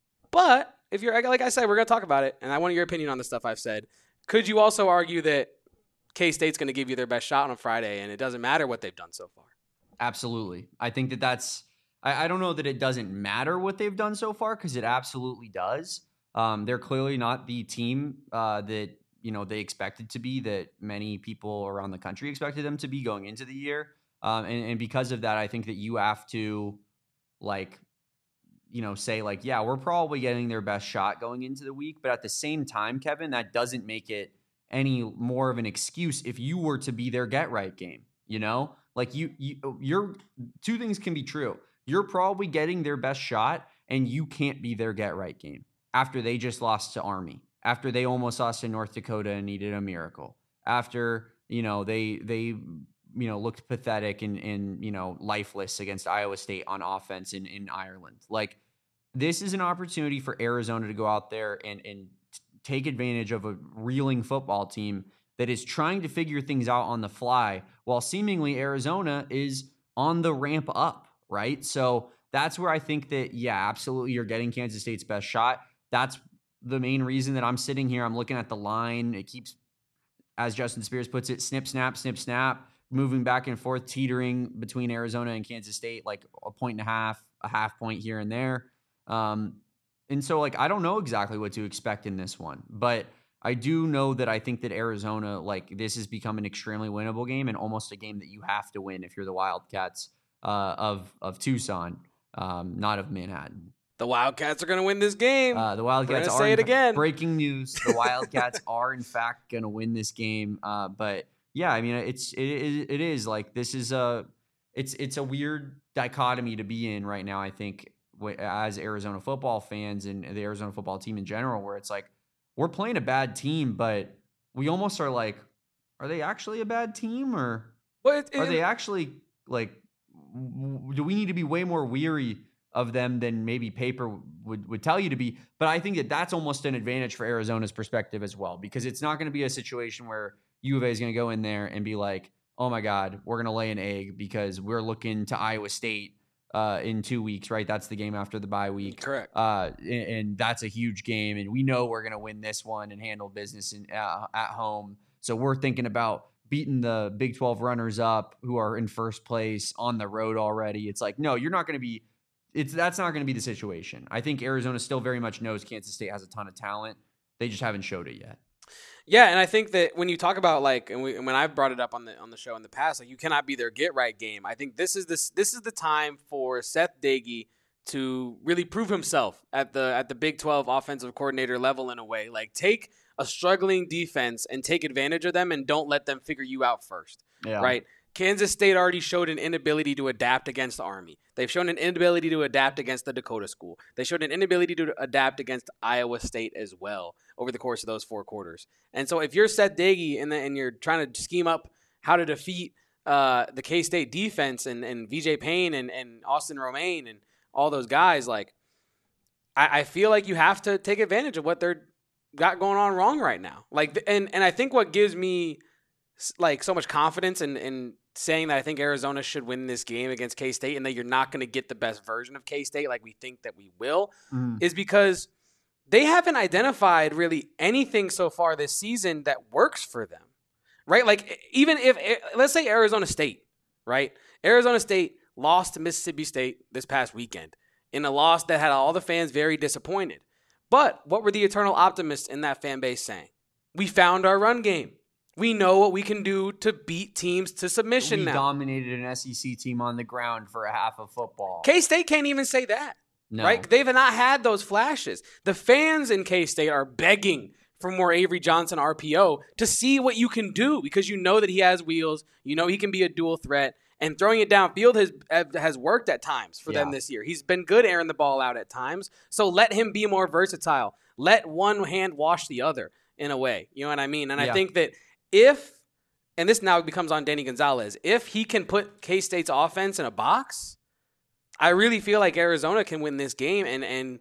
But if you're, like I said, we're going to talk about it, and I want your opinion on the stuff I've said. Could you also argue that K-State's going to give you their best shot on Friday, and it doesn't matter what they've done so far? Absolutely. I think that that's I, I don't know that it doesn't matter what they've done so far because it absolutely does. Um, they're clearly not the team uh, that, you know, they expected to be, that many people around the country expected them to be going into the year. Um, and, and because of that, I think that you have to, like, you know, say, like, yeah, we're probably getting their best shot going into the week. But at the same time, Kevin, that doesn't make it any more of an excuse if you were to be their get-right game, you know? Like, you, you, you're, two things can be true. You're probably getting their best shot, and you can't be their get-right game. After they just lost to Army, after they almost lost to North Dakota and needed a miracle, after, you know, they, they, you know, looked pathetic and, and, you know, lifeless against Iowa State on offense in, in Ireland. Like, this is an opportunity for Arizona to go out there and, and take advantage of a reeling football team that is trying to figure things out on the fly while seemingly Arizona is on the ramp up, right? So that's where I think that, yeah, absolutely, you're getting Kansas State's best shot. That's the main reason that I'm sitting here. I'm looking at the line. It keeps, as Justin Spears puts it, snip, snap, snip, snap, moving back and forth, teetering between Arizona and Kansas State, like a point and a half, a half point here and there. Um, and so, like, I don't know exactly what to expect in this one, but I do know that I think that Arizona, like, this has become an extremely winnable game and almost a game that you have to win if you're the Wildcats uh, of, of Tucson, um, not of Manhattan. The Wildcats are going to win this game. Uh, the Wildcats are say it again. Breaking news: the Wildcats are in fact going to win this game. Uh, but yeah, I mean, it's it, it, it is like this is a it's it's a weird dichotomy to be in right now, I think, as Arizona football fans and the Arizona football team in general, where it's like, we're playing a bad team, but we almost are like, are they actually a bad team, or well, it, it, are they actually like, w- do we need to be way more weary of them than maybe paper would, would tell you to be? But I think that that's almost an advantage for Arizona's perspective as well, because it's not going to be a situation where U of A is going to go in there and be like, oh my God, we're going to lay an egg because we're looking to Iowa State uh, in two weeks, right? That's the game after the bye week. Correct. Uh, and, and that's a huge game. And we know we're going to win this one and handle business in, uh, at home. So we're thinking about beating the Big twelve runners up who are in first place on the road already. It's like, no, you're not going to be, it's, that's not going to be the situation. I think Arizona still very much knows Kansas State has a ton of talent. They just haven't showed it yet. Yeah, and I think that when you talk about like, and, we, and when I've brought it up on the on the show in the past, like you cannot be their get right game. I think this is this this is the time for Seth Doege to really prove himself at the at the Big twelve offensive coordinator level in a way. Like take a struggling defense and take advantage of them, and don't let them figure you out first. Yeah. Right? Kansas State already showed an inability to adapt against the Army. They've shown an inability to adapt against the Dakota School. They showed an inability to adapt against Iowa State as well over the course of those four quarters. And so if you're Seth Doege and, and you're trying to scheme up how to defeat uh, the K-State defense and, and V J Payne and, and Austin Romaine and all those guys, like I, I feel like you have to take advantage of what they're got going on wrong right now. Like, and, and I think what gives me like so much confidence in, in saying that I think Arizona should win this game against K-State and that you're not going to get the best version of K-State like we think that we will Mm. is because they haven't identified really anything so far this season that works for them, right? Like even if, let's say Arizona State, right? Arizona State lost to Mississippi State this past weekend in a loss that had all the fans very disappointed. But what were the eternal optimists in that fan base saying? We found our run game. We know what we can do to beat teams to submission we now. dominated an S E C team on the ground for a half of football. K-State can't even say that, no. right? They've not had those flashes. The fans in K-State are begging for more Avery Johnson R P O to see what you can do because you know that he has wheels. You know he can be a dual threat. And throwing it downfield has has worked at times for yeah. them this year. He's been good airing the ball out at times. So let him be more versatile. Let one hand wash the other in a way. You know what I mean? And yeah. I think that if, and this now becomes on Danny Gonzalez, if he can put K-State's offense in a box, I really feel like Arizona can win this game. And and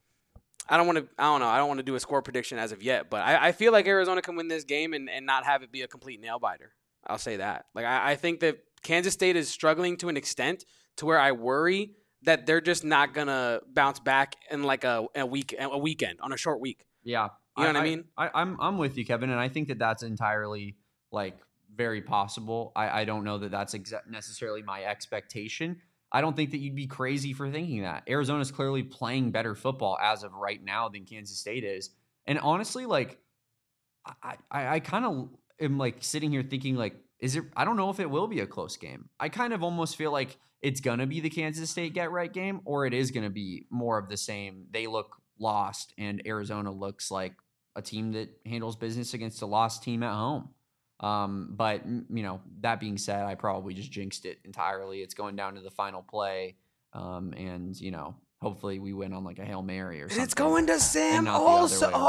I don't want to, I don't know, I don't want to do a score prediction as of yet, but I, I feel like Arizona can win this game and, and not have it be a complete nail biter. I'll say that. Like I, I think that Kansas State is struggling to an extent to where I worry that they're just not gonna bounce back in like a, a week, a weekend on a short week. Yeah. You know I, what I mean? I, I'm I'm with you, Kevin, and I think that that's entirely like very possible. I, I don't know that that's exa- necessarily my expectation. I don't think that you'd be crazy for thinking that. Arizona's clearly playing better football as of right now than Kansas State is, and honestly, like I I, I kind of am like sitting here thinking like, is it? I don't know if it will be a close game. I kind of almost feel like it's gonna be the Kansas State get right game, or it is gonna be more of the same. They look lost, and Arizona looks like a team that handles business against a lost team at home. Um, but, you know, that being said, I probably just jinxed it entirely. It's going down to the final play. Um, and, you know, hopefully we win on like a Hail Mary or something. And it's going to Sam not the other also. way around.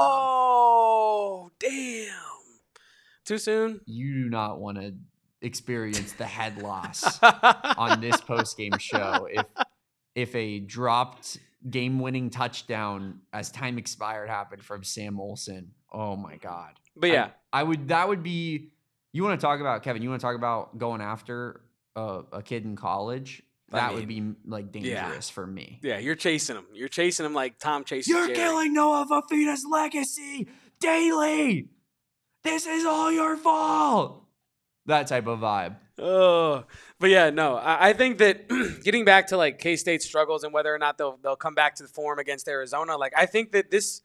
Oh, damn. Too soon? You do not want to experience the head loss on this post-game show if if a dropped game-winning touchdown as time expired happened from Sam Olsen. Oh my God. But yeah, I, I would, that would be, you want to talk about, Kevin, you want to talk about going after a, a kid in college? I That mean, would be like dangerous yeah. for me. Yeah, you're chasing him. You're chasing him like Tom chases You're Jerry. killing Noah Fafita's legacy daily. This is all your fault. That type of vibe. Oh, but yeah, no, I, I think that getting back to like K-State's struggles and whether or not they'll they'll come back to the form against Arizona, like I think that this,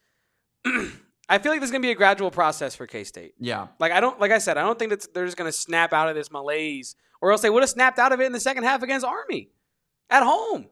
I feel like this is gonna be a gradual process for K-State. Yeah. Like I don't, like I said, I don't think that they're just gonna snap out of this malaise, or else they would have snapped out of it in the second half against Army at home.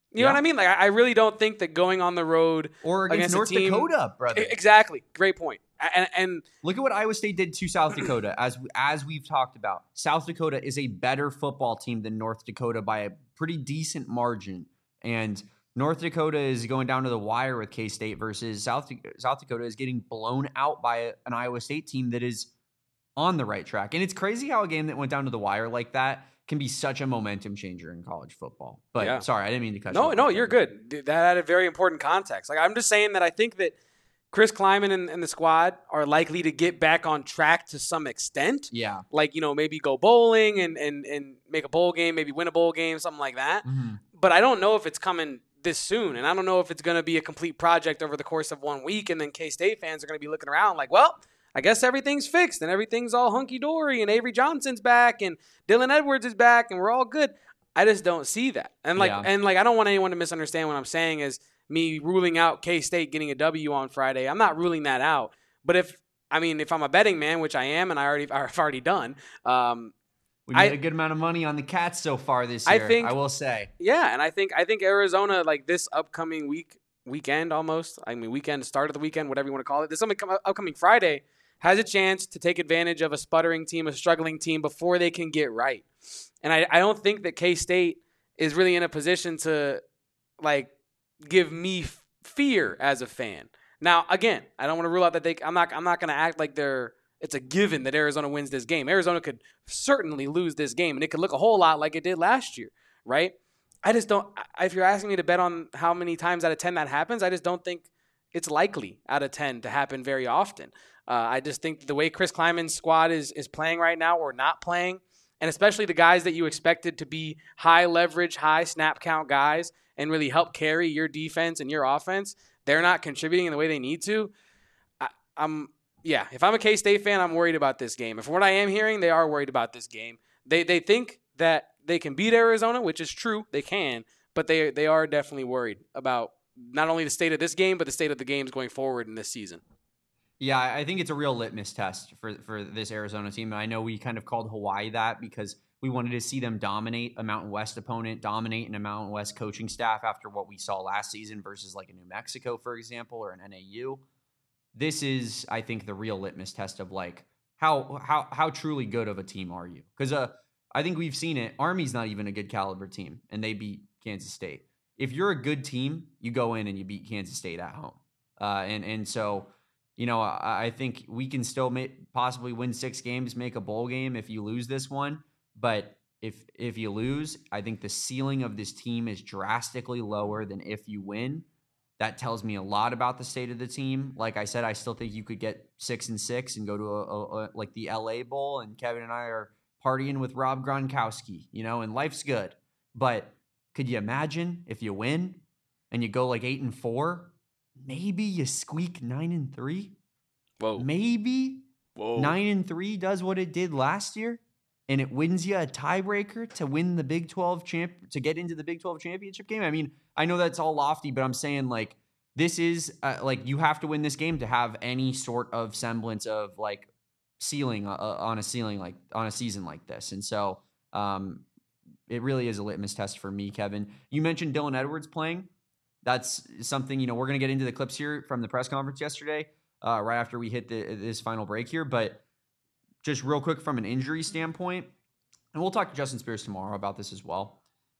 You yeah. know what I mean? Like, I really don't think that going on the road or against, against North team, Dakota, brother. Exactly. Great point. And, and look at what Iowa State did to South Dakota. As as we've talked about, South Dakota is a better football team than North Dakota by a pretty decent margin. And North Dakota is going down to the wire with K-State versus South South Dakota is getting blown out by an Iowa State team that is on the right track. And it's crazy how a game that went down to the wire like that can be such a momentum changer in college football. But yeah. sorry, I didn't mean to cut no, you off. No, no, you're good. That had a very important context. Like, I'm just saying that I think that Chris Klieman and, and the squad are likely to get back on track to some extent. Yeah. Like, you know, maybe go bowling and, and, and make a bowl game, maybe win a bowl game, something like that. Mm-hmm. But I don't know if it's coming this soon. And I don't know if it's going to be a complete project over the course of one week. And then K-State fans are going to be looking around like, well, I guess everything's fixed and everything's all hunky-dory and Avery Johnson's back and Dylan Edwards is back and we're all good. I just don't see that. And like, yeah. and like, I don't want anyone to misunderstand what I'm saying is me ruling out K-State getting a W on Friday. I'm not ruling that out. But if, I mean, if I'm a betting man, which I am and I already, I've already done. Um, we made I, a good amount of money on the Cats so far this year, I, think, I will say. Yeah, and I think I think Arizona, like this upcoming week, weekend almost, I mean, weekend, start of the weekend, whatever you want to call it, this upcoming Friday, has a chance to take advantage of a sputtering team, a struggling team before they can get right. And I, I don't think that K-State is really in a position to, like, give me f- fear as a fan. Now, again, I don't want to rule out that they – I'm not I'm not going to act like they're – it's a given that Arizona wins this game. Arizona could certainly lose this game, and it could look a whole lot like it did last year, right? I just don't – if you're asking me to bet on how many times out of ten that happens, I just don't think it's likely out of ten to happen very often. Uh, I just think the way Chris Klieman's squad is is playing right now or not playing, and especially the guys that you expected to be high leverage, high snap count guys and really help carry your defense and your offense, they're not contributing in the way they need to. I, I'm yeah, if I'm a K-State fan, I'm worried about this game. And from what I am hearing, they are worried about this game. They they think that they can beat Arizona, which is true, they can, but they they are definitely worried about not only the state of this game, but the state of the games going forward in this season. Yeah, I think it's a real litmus test for, for this Arizona team. And I know we kind of called Hawaii that because we wanted to see them dominate a Mountain West opponent, dominate in a Mountain West coaching staff after what we saw last season versus like a New Mexico, for example, or an N A U. This is, I think, the real litmus test of like how how how truly good of a team are you? Because uh, I think we've seen it. Army's not even a good caliber team, and they beat Kansas State. If you're a good team, you go in and you beat Kansas State at home. Uh, and and so... You know, I think we can still make, possibly win six games, make a bowl game if you lose this one. But if if you lose, I think the ceiling of this team is drastically lower than if you win. That tells me a lot about the state of the team. Like I said, I still think you could get six and six and go to a, a, a like the L A Bowl, and Kevin and I are partying with Rob Gronkowski, you know, and life's good. But could you imagine if you win and you go like eight and four? Maybe you squeak nine and three. Whoa. Maybe Whoa. nine and three does what it did last year, and it wins you a tiebreaker to win the Big twelve champ to get into the Big twelve championship game. I mean, I know that's all lofty, but I'm saying like this is uh, like you have to win this game to have any sort of semblance of like ceiling uh, on a ceiling like on a season like this, and so um, it really is a litmus test for me, Kevin. You mentioned Dylan Edwards playing. That's something, you know, we're going to get into the clips here from the press conference yesterday, uh, right after we hit the, this final break here. But just real quick from an injury standpoint, and we'll talk to Justin Spears tomorrow about this as well.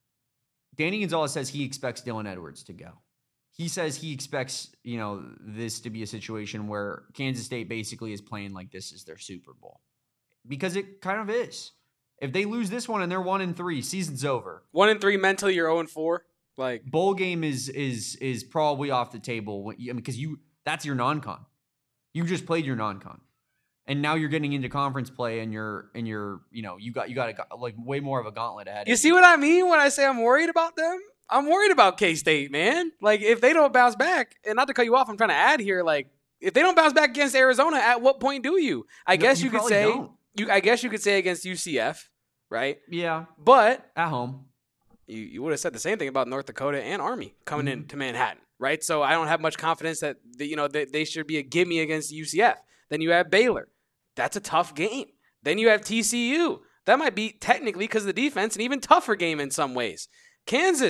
Danny Gonzalez says he expects Dylan Edwards to go. He says he expects, you know, this to be a situation where Kansas State basically is playing like this is their Super Bowl. Because it kind of is. If they lose this one and they're one and three, season's over. One and three mentally, you're zero and four. Like bowl game is is is probably off the table when you, I mean, because you that's your non-con. You just played your non-con, and now you're getting into conference play, and you're and you're you know you got you got a, like way more of a gauntlet ahead. You see what I mean when I say I'm worried about them? I'm worried about K-State, man. Like if they don't bounce back, and not to cut you off, I'm trying to add here. Like if they don't bounce back against Arizona, at what point do you? I no, guess you, you could say don't. you. I guess you could say against U C F, right? Yeah, but at home. You, you would have said the same thing about North Dakota and Army coming mm-hmm. into Manhattan, right? So I don't have much confidence that the, you know they, they should be a gimme against U C F. Then you have Baylor. That's a tough game. Then you have T C U. That might be technically because of the defense an even tougher game in some ways. Kansas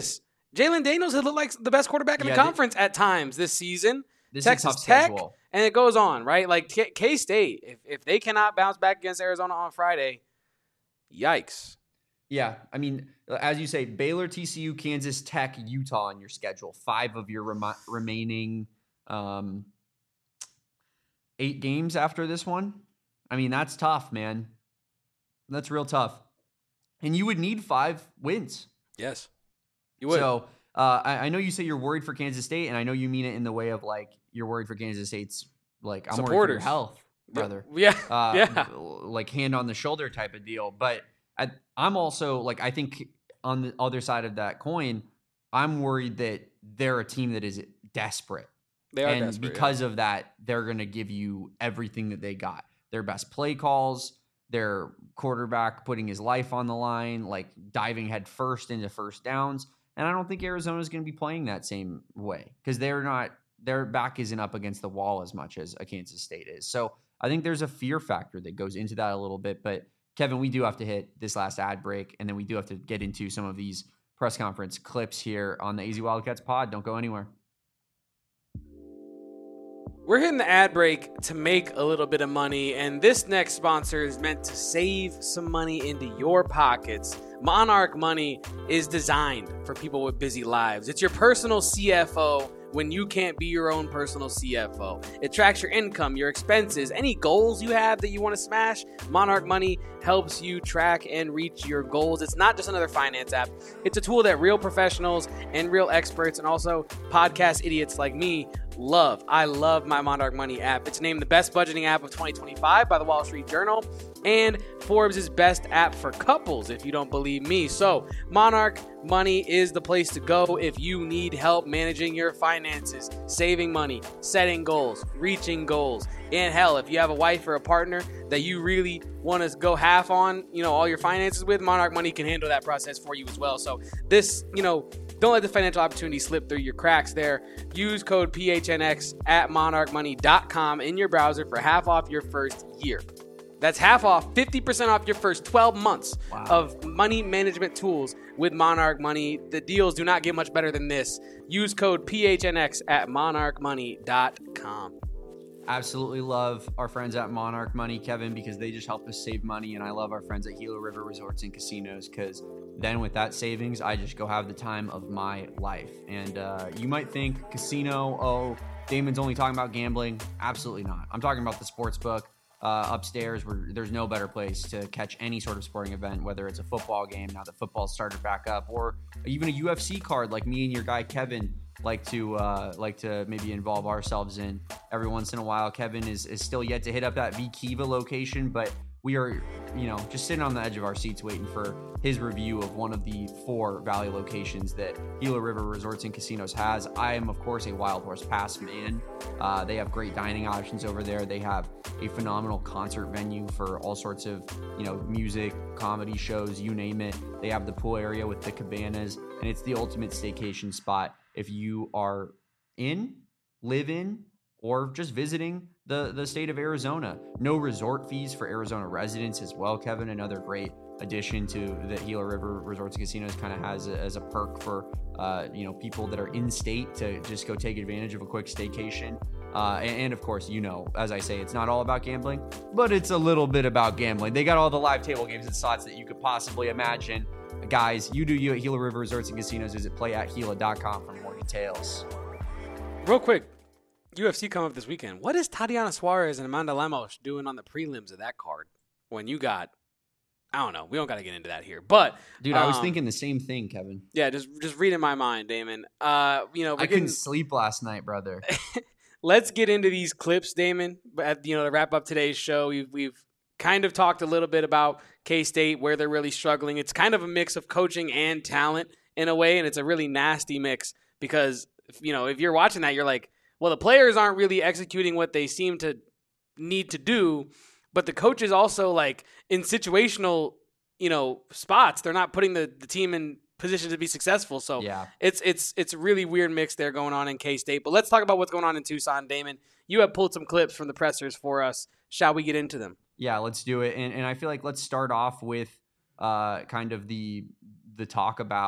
Jalen Daniels has looked like the best quarterback in Yeah, the they- conference at times this season. This Texas is a tough Tech, schedule. and it goes on, right? Like K- K-State, if, if they cannot bounce back against Arizona on Friday, yikes. Yeah, I mean, as you say, Baylor, T C U, Kansas Tech, Utah on your schedule. Five of your rem- remaining um, eight games after this one. I mean, that's tough, man. That's real tough. And you would need five wins. Yes, you would. So uh, I, I know you say you're worried for Kansas State, and I know you mean it in the way of like you're worried for Kansas State's like I'm worried for your Supporters. health, brother. Yeah, Uh, yeah. like hand on the shoulder type of deal. But I, I'm also like, I think on the other side of that coin, I'm worried that they're a team that is desperate. They are and desperate, because of that, they're going to give you everything that they got. Their best play calls, their quarterback putting his life on the line, like diving head first into first downs. And I don't think Arizona is going to be playing that same way because they're not, their back isn't up against the wall as much as a Kansas State is. So I think there's a fear factor that goes into that a little bit. But Kevin, we do have to hit this last ad break, and then we do have to get into some of these press conference clips here on the A Z Wildcats pod. Don't go anywhere. We're hitting the ad break to make a little bit of money, and this next sponsor is meant to save some money into your pockets. Monarch Money is designed for people with busy lives. It's your personal C F O when you can't be your own personal C F O. It tracks your income, your expenses, any goals you have that you want to smash. Monarch Money helps you track and reach your goals. It's not just another finance app. It's a tool that real professionals and real experts and also podcast idiots like me love. I love my Monarch Money app. It's named the best budgeting app of twenty twenty-five by the Wall Street Journal and Forbes' best app for couples, if you don't believe me. So Monarch Money is the place to go if you need help managing your finances, saving money, setting goals, reaching goals. And hell, if you have a wife or a partner that you really want to go half on, you know, all your finances with, Monarch Money can handle that process for you as well. So this, you know, don't let the financial opportunity slip through your cracks there. Use code P H N X at monarch money dot com in your browser for half off your first year. That's half off, fifty percent off your first twelve months Wow. of money management tools with Monarch Money. The deals do not get much better than this. Use code P H N X at monarch money dot com. Absolutely love our friends at Monarch Money, Kevin, because they just help us save money. And I love our friends at Gila River Resorts and Casinos because then with that savings, I just go have the time of my life. And uh, you might think casino, oh, Damon's only talking about gambling. Absolutely not. I'm talking about the sports book uh, upstairs where there's no better place to catch any sort of sporting event, whether it's a football game, now that football started back up, or even a U F C card like me and your guy, Kevin, like to uh, like to maybe involve ourselves in every once in a while. Kevin is, is still yet to hit up that V Kiva location, but we are, you know, just sitting on the edge of our seats waiting for his review of one of the four Valley locations that Gila River Resorts and Casinos has. I am, of course, a Wild Horse Pass fan. Uh, they have great dining options over there. They have a phenomenal concert venue for all sorts of, you know, music, comedy shows, you name it. They have the pool area with the cabanas, and it's the ultimate staycation spot if you are in, live in, or just visiting the, the state of Arizona. No resort fees for Arizona residents as well, Kevin. Another great addition to the Gila River Resorts and Casinos kind of has a, as a perk for, uh, you know, people that are in state to just go take advantage of a quick staycation. Uh, and, and of course, you know, as I say, it's not all about gambling, but it's a little bit about gambling. They got all the live table games and slots that you could possibly imagine. Guys, you do you at Gila River Resorts and Casinos. Visit play at gila dot com for more details. Real quick, U F C coming up this weekend. What is Tatiana Suarez and Amanda Lemos doing on the prelims of that card when you got, I don't know, we don't got to get into that here. But, Dude, I was um, thinking the same thing, Kevin. yeah, just just read in my mind, Damon. Uh, you know, we're I getting, couldn't sleep last night, brother. let's get into these clips, Damon. But, you know, to wrap up today's show, we've, we've kind of talked a little bit about K-State, where they're really struggling. It's kind of a mix of coaching and talent in a way, and it's a really nasty mix because, you know, if you're watching that, you're like, well, the players aren't really executing what they seem to need to do, but the coaches also, like, in situational, you know, spots, they're not putting the, the team in position to be successful. So Yeah. it's it's it's a really weird mix there going on in K-State. But let's talk about what's going on in Tucson, Damon. You have pulled some clips from the pressers for us. Shall we get into them? Yeah, let's do it. And and I feel like let's start off with uh, kind of the the talk about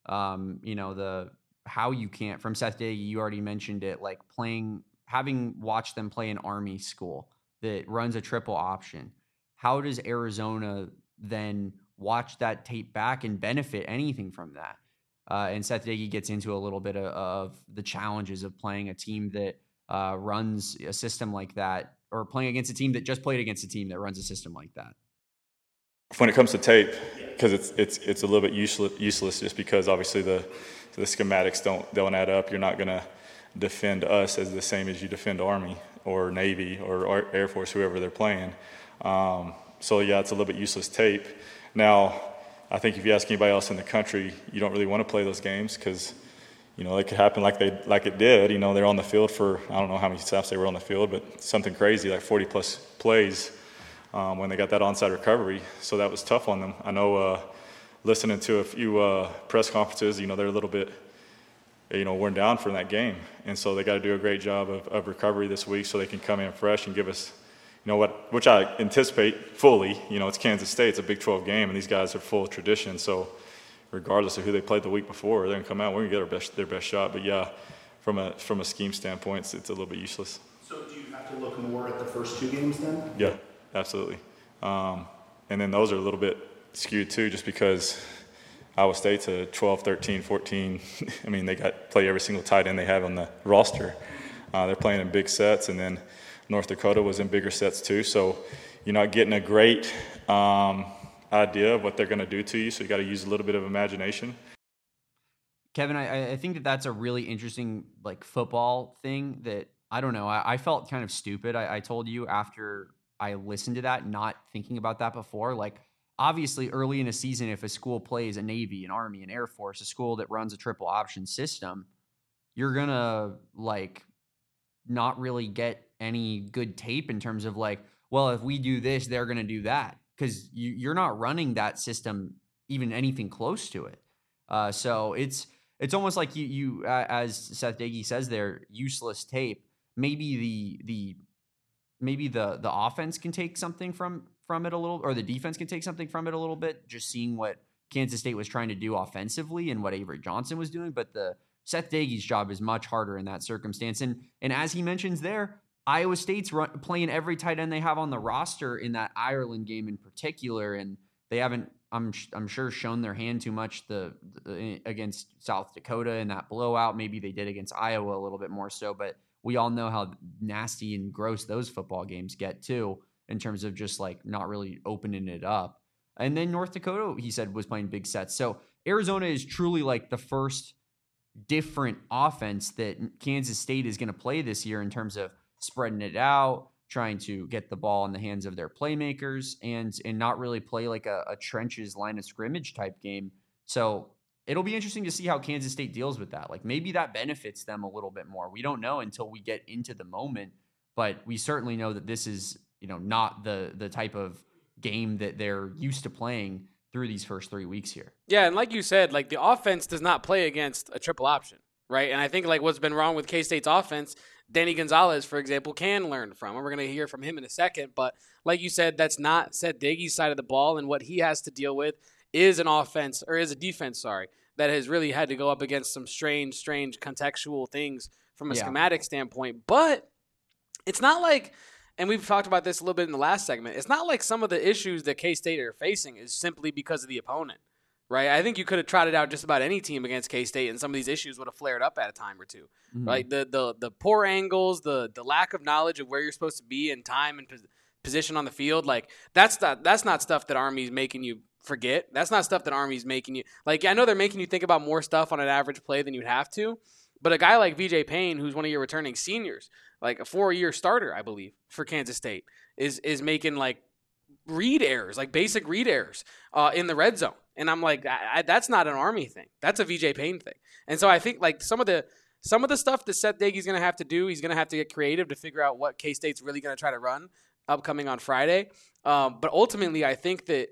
um, you know, the how you can't from Seth Day. You already mentioned it, like playing, having watched them play an Army school that runs a triple option. How does Arizona then watch that tape back and benefit anything from that? Uh, and Seth Day gets into a little bit of, of the challenges of playing a team that uh, runs a system like that, or playing against a team that just played against a team that runs a system like that. When it comes to tape, because it's it's it's a little bit useless, useless just because obviously the the schematics don't don't add up. You're not going to defend us as the same as you defend Army or Navy or Air Force, whoever they're playing. Um, so yeah, it's a little bit useless tape. Now, I think if you ask anybody else in the country, you don't really want to play those games because, you know, it could happen like they like it did. You know, they're on the field for, I don't know how many snaps they were on the field, but something crazy like forty plus plays um, when they got that onside recovery. So that was tough on them. I know uh, listening to a few uh, press conferences, you know, they're a little bit, you know, worn down from that game. And so they got to do a great job of, of recovery this week so they can come in fresh and give us, you know, what, which I anticipate fully. You know, it's Kansas State, it's a Big twelve game, and these guys are full of tradition. So regardless of who they played the week before, they're going to come out, we're going to get our best, their best shot. But yeah, from a from a scheme standpoint, it's, it's a little bit useless. So do you have to look more at the first two games then? Yeah, absolutely. Um, and then those are a little bit skewed too, just because Iowa State's a twelve, thirteen, fourteen. I mean, they got play every single tight end they have on the roster. Uh, they're playing in big sets, and then North Dakota was in bigger sets too. So you're not getting a great um, idea of what they're going to do to you. So you got to use a little bit of imagination. Kevin, I, I think that that's a really interesting like football thing that I don't know. I, I felt kind of stupid. I, I told you after I listened to that, not thinking about that before. Like obviously early in a season, if a school plays a Navy, an Army, an Air Force, a school that runs a triple option system, you're going to like not really get any good tape in terms of like, well, if we do this, they're going to do that. Because you, you're not running that system even anything close to it. Uh, so it's it's almost like you, you uh, as Seth Doege says there, useless tape. Maybe the the maybe the the offense can take something from from it a little, or the defense can take something from it a little bit, just seeing what Kansas State was trying to do offensively and what Avery Johnson was doing. But the Seth Doege's job is much harder in that circumstance. And and as he mentions there, Iowa State's run, playing every tight end they have on the roster in that Ireland game in particular, and they haven't, I'm I'm sure, shown their hand too much the, the against South Dakota in that blowout. Maybe they did against Iowa a little bit more so, but we all know how nasty and gross those football games get too, in terms of just like not really opening it up. And then North Dakota, he said, was playing big sets. So Arizona is truly like the first different offense that Kansas State is going to play this year in terms of spreading it out, trying to get the ball in the hands of their playmakers, and and not really play like a, a trenches line of scrimmage type game. So it'll be interesting to see how Kansas State deals with that. Like maybe that benefits them a little bit more. We don't know until we get into the moment, but we certainly know that this is, you know, not the the type of game that they're used to playing through these first three weeks here. Yeah, and like you said, like the offense does not play against a triple option, right? And I think like what's been wrong with K-State's offense, Danny Gonzalez, for example, can learn from. And we're going to hear from him in a second. But like you said, that's not Seth Doege's side of the ball. And what he has to deal with is an offense, or is a defense, sorry, that has really had to go up against some strange, strange contextual things from a yeah. schematic standpoint. But it's not like, and we've talked about this a little bit in the last segment, it's not like some of the issues that K-State are facing is simply because of the opponent. Right, I think you could have trotted out just about any team against K-State, and some of these issues would have flared up at a time or two. Mm-hmm. Right, the the the poor angles, the the lack of knowledge of where you're supposed to be in time and pos- position on the field, like that's not that's not stuff that Army's making you forget. That's not stuff that Army's making you like. I know they're making you think about more stuff on an average play than you'd have to, but a guy like V J Payne, who's one of your returning seniors, like a four-year starter, I believe, for Kansas State, is is making like read errors, like basic read errors uh, in the red zone. And I'm like, I, I, that's not an Army thing. That's a V J Payne thing. And so I think like some of the some of the stuff that Seth Doege's going to have to do, he's going to have to get creative to figure out what K-State's really going to try to run upcoming on Friday. Um, but ultimately, I think that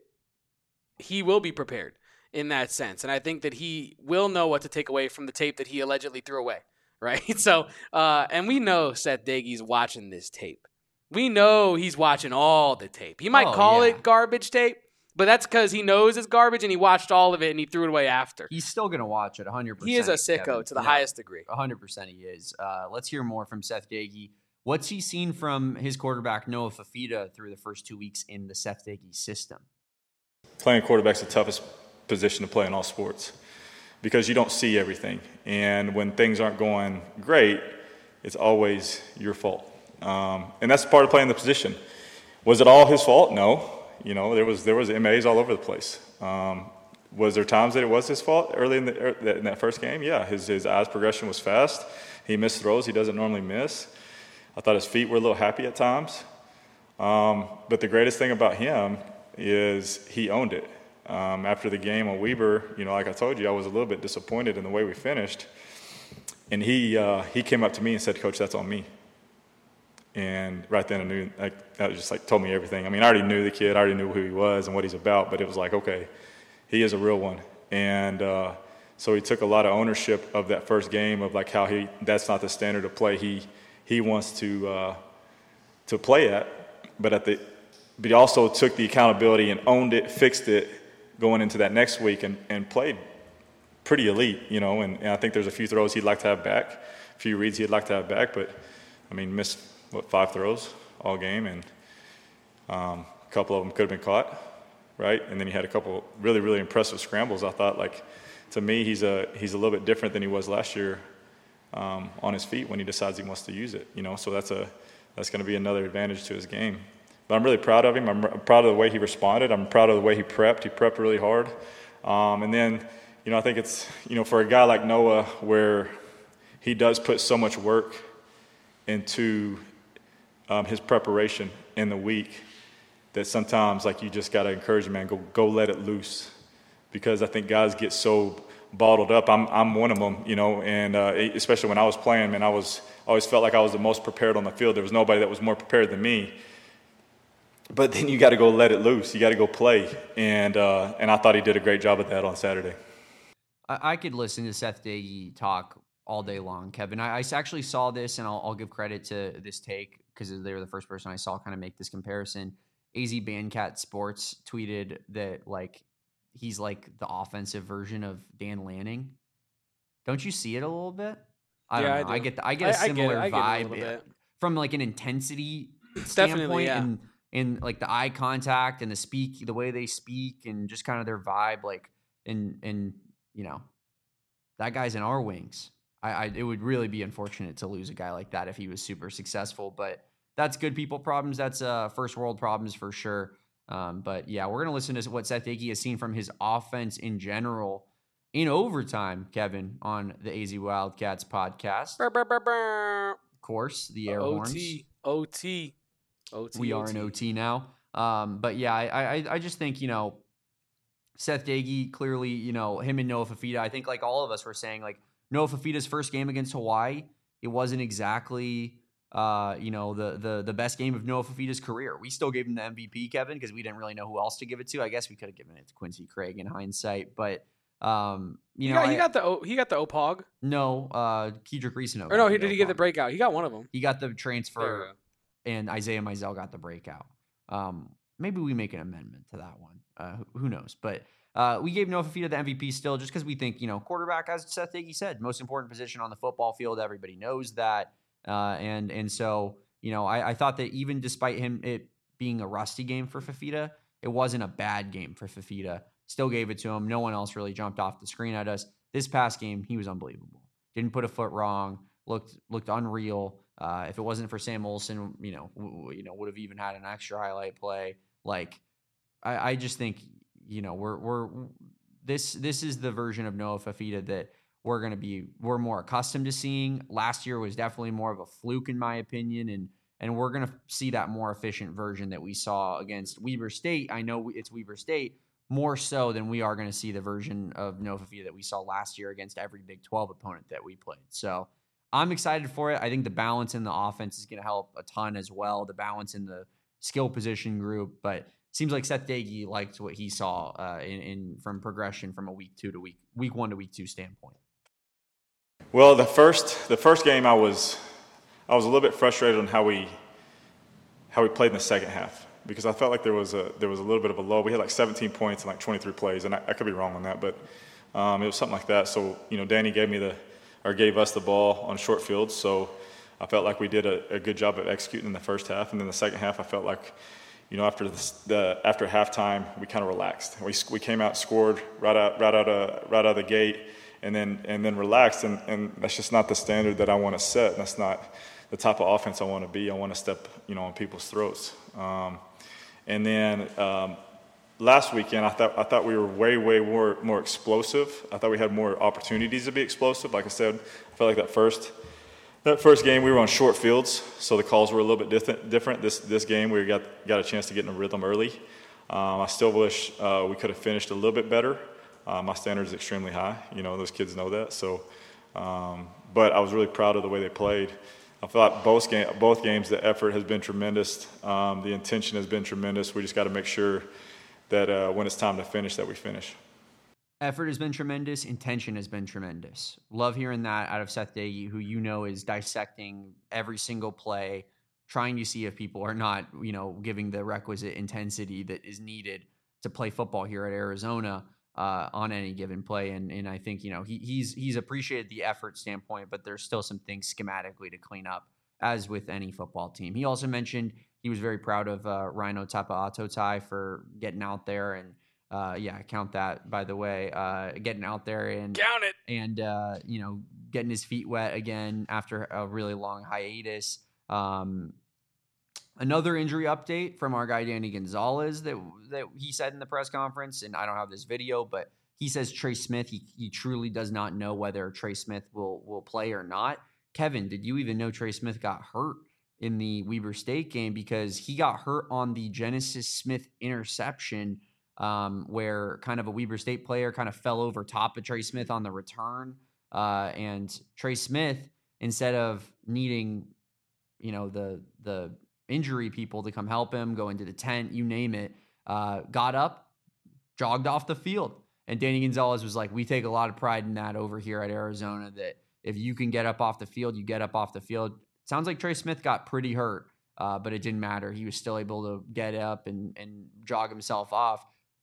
he will be prepared in that sense. And I think that he will know what to take away from the tape that he allegedly threw away. Right. So uh, and we know Seth Doege's watching this tape. We know he's watching all the tape. He might oh, call yeah. it garbage tape, But that's because he knows it's garbage and he watched all of it and he threw it away after. He's still going to watch it one hundred percent. He is a sicko Kevin. to the No, highest degree. one hundred percent he is. Uh, let's hear more from Seth Doege. What's he seen from his quarterback, Noah Fifita, through the first two weeks in the Seth Doege system? Playing quarterback's the toughest position to play in all sports because you don't see everything. And when things aren't going great, it's always your fault. Um, and that's part of playing the position. Was it all his fault? No. You know, there was there was M As all over the place. Um, was there times that it was his fault early in, the, in that first game? Yeah, his his eyes progression was fast. He missed throws he doesn't normally miss. I thought his feet were a little happy at times. Um, but the greatest thing about him is he owned it. Um, after the game on Weber, you know, like I told you, I was a little bit disappointed in the way we finished. And he uh, he came up to me and said, "Coach, that's on me." And right then I knew, like, that just like told me everything. I mean, I already knew the kid, I already knew who he was and what he's about, but it was like, okay, he is a real one. And uh, so he took a lot of ownership of that first game of like how he, that's not the standard of play he he wants to uh, to play at. But at the, but he also took the accountability and owned it, fixed it going into that next week and, and played pretty elite, you know. And, and I think there's a few throws he'd like to have back, a few reads he'd like to have back, but I mean, missed. What, five throws all game, and um, a couple of them could have been caught, right? And then he had a couple really, really impressive scrambles. I thought, like, to me, he's a he's a little bit different than he was last year um, on his feet when he decides he wants to use it, you know. So that's a that's going to be another advantage to his game. But I'm really proud of him. I'm proud of the way he responded. I'm proud of the way he prepped. He prepped really hard. Um, and then, you know, I think it's, you know, for a guy like Noah where he does put so much work into Um, his preparation in the week, that sometimes like you just got to encourage him, man, go go let it loose, because I think guys get so bottled up. I'm I'm one of them, you know, and uh, especially when I was playing, man, I was always felt like I was the most prepared on the field. There was nobody that was more prepared than me. But then you got to go let it loose. You got to go play, and uh, and I thought he did a great job at that on Saturday. I, I could listen to Seth Doege talk all day long, Kevin. I, I actually saw this, and I'll, I'll give credit to this take because they were the first person I saw kind of make this comparison. A Z Bandcat Sports tweeted that like he's like the offensive version of Dan Lanning. Don't you see it a little bit? I don't yeah, know. I, I get the, I get a I, similar I get it. I get vibe it a bit. from like an intensity Definitely, standpoint, yeah. and and like the eye contact and the speak, the way they speak, and just kind of their vibe. Like and and you know, that guy's in our wings. I, I it would really be unfortunate to lose a guy like that if he was super successful, but that's good people problems. That's uh, first world problems for sure. Um, but yeah, we're going to listen to what Seth Doege has seen from his offense in general in overtime, Kevin, on the A Z Wildcats podcast. Burr, burr, burr, burr. Of course, the air O T, horns. O T, O T. We are in O T now. Um, but yeah, I, I, I just think, you know, Seth Doege, clearly, you know, him and Noah Fifita, I think like all of us were saying, like Noah Fifita's first game against Hawaii, it wasn't exactly... Uh, you know, the the the best game of Noah Fifita's career. We still gave him the M V P, Kevin, because we didn't really know who else to give it to. I guess we could have given it to Quincy Craig in hindsight, but um, you he know, got, I, he got the o, he got the O P O G. no, uh, Kedrick Reesano. Or no, he did he get the breakout? He got one of them. He got the There transfer, we go. and Isaiah Mizell got the breakout. Um, maybe we make an amendment to that one. Uh, who, who knows? But uh, we gave Noah Fifita the M V P still, just because we think, you know, quarterback, as Seth Doege said, most important position on the football field. Everybody knows that, uh, and and so. You know, I, I thought that even despite him it being a rusty game for Fifita, it wasn't a bad game for Fifita. Still gave it to him. No one else really jumped off the screen at us. This past game, he was unbelievable. Didn't put a foot wrong. Looked looked unreal. Uh, if it wasn't for Sam Olsen, you know, w- you know, would have even had an extra highlight play. Like, I, I just think, you know, we're we're this this is the version of Noah Fifita that we're going to be, we're more accustomed to seeing. Last year was definitely more of a fluke, in my opinion, and and we're going to see that more efficient version that we saw against Weber State. I know it's Weber State, more so than we are going to see the version of Noah Fifita that we saw last year against every Big twelve opponent that we played. So I'm excited for it. I think the balance in the offense is going to help a ton as well, the balance in the skill position group, but seems like Seth Doege liked what he saw uh, in, in from progression from a week two to week, week one to week two standpoint. Well, the first the first game, I was I was a little bit frustrated on how we how we played in the second half, because I felt like there was a there was a little bit of a low. We had like seventeen points in like twenty-three plays, and I, I could be wrong on that, but um, it was something like that. So you know, Danny gave me the or gave us the ball on short fields. So I felt like we did a, a good job of executing in the first half, and then the second half, I felt like, you know, after the, the after halftime, we kind of relaxed. We we came out, scored right out right out of right out of the gate, and then and then relaxed, and, and that's just not the standard that I want to set. That's not the type of offense I want to be. I want to step, you know, on people's throats. Um, and then um, last weekend, I thought I thought we were way way more more explosive. I thought we had more opportunities to be explosive. Like I said, I felt like that first. That first game, we were on short fields, so the calls were a little bit different. different. This this game, we got got a chance to get in a rhythm early. Um, I still wish uh, we could have finished a little bit better. Uh, my standard is extremely high. You know, those kids know that. So, um, but I was really proud of the way they played. I thought both game, both games, the effort has been tremendous. Um, the intention has been tremendous. We just got to make sure that uh, when it's time to finish, that we finish. Effort has been tremendous. Intention has been tremendous. Love hearing that out of Seth Doege, who you know is dissecting every single play, trying to see if people are not, you know, giving the requisite intensity that is needed to play football here at Arizona uh, on any given play. And and I think, you know, he, he's he's appreciated the effort standpoint, but there's still some things schematically to clean up, as with any football team. He also mentioned he was very proud of uh, Rhino Tapa'atotai for getting out there and, Uh, yeah, count that, by the way, uh, getting out there and, Count it. and uh, you know, getting his feet wet again after a really long hiatus. Um, another injury update from our guy, Danny Gonzalez, that, that he said in the press conference, and I don't have this video, but he says Trey Smith, he, he truly does not know whether Trey Smith will, will play or not. Kevin, did you even know Trey Smith got hurt in the Weber State game? Because he got hurt on the Genesis Smith interception, Um, where kind of a Weber State player kind of fell over top of Trey Smith on the return. Uh, and Trey Smith, instead of needing, you know, the the injury people to come help him, go into the tent, you name it, uh, got up, jogged off the field. And Danny Gonzalez was like, we take a lot of pride in that over here at Arizona, that if you can get up off the field, you get up off the field. Sounds like Trey Smith got pretty hurt, uh, but it didn't matter. He was still able to get up and, and jog himself off.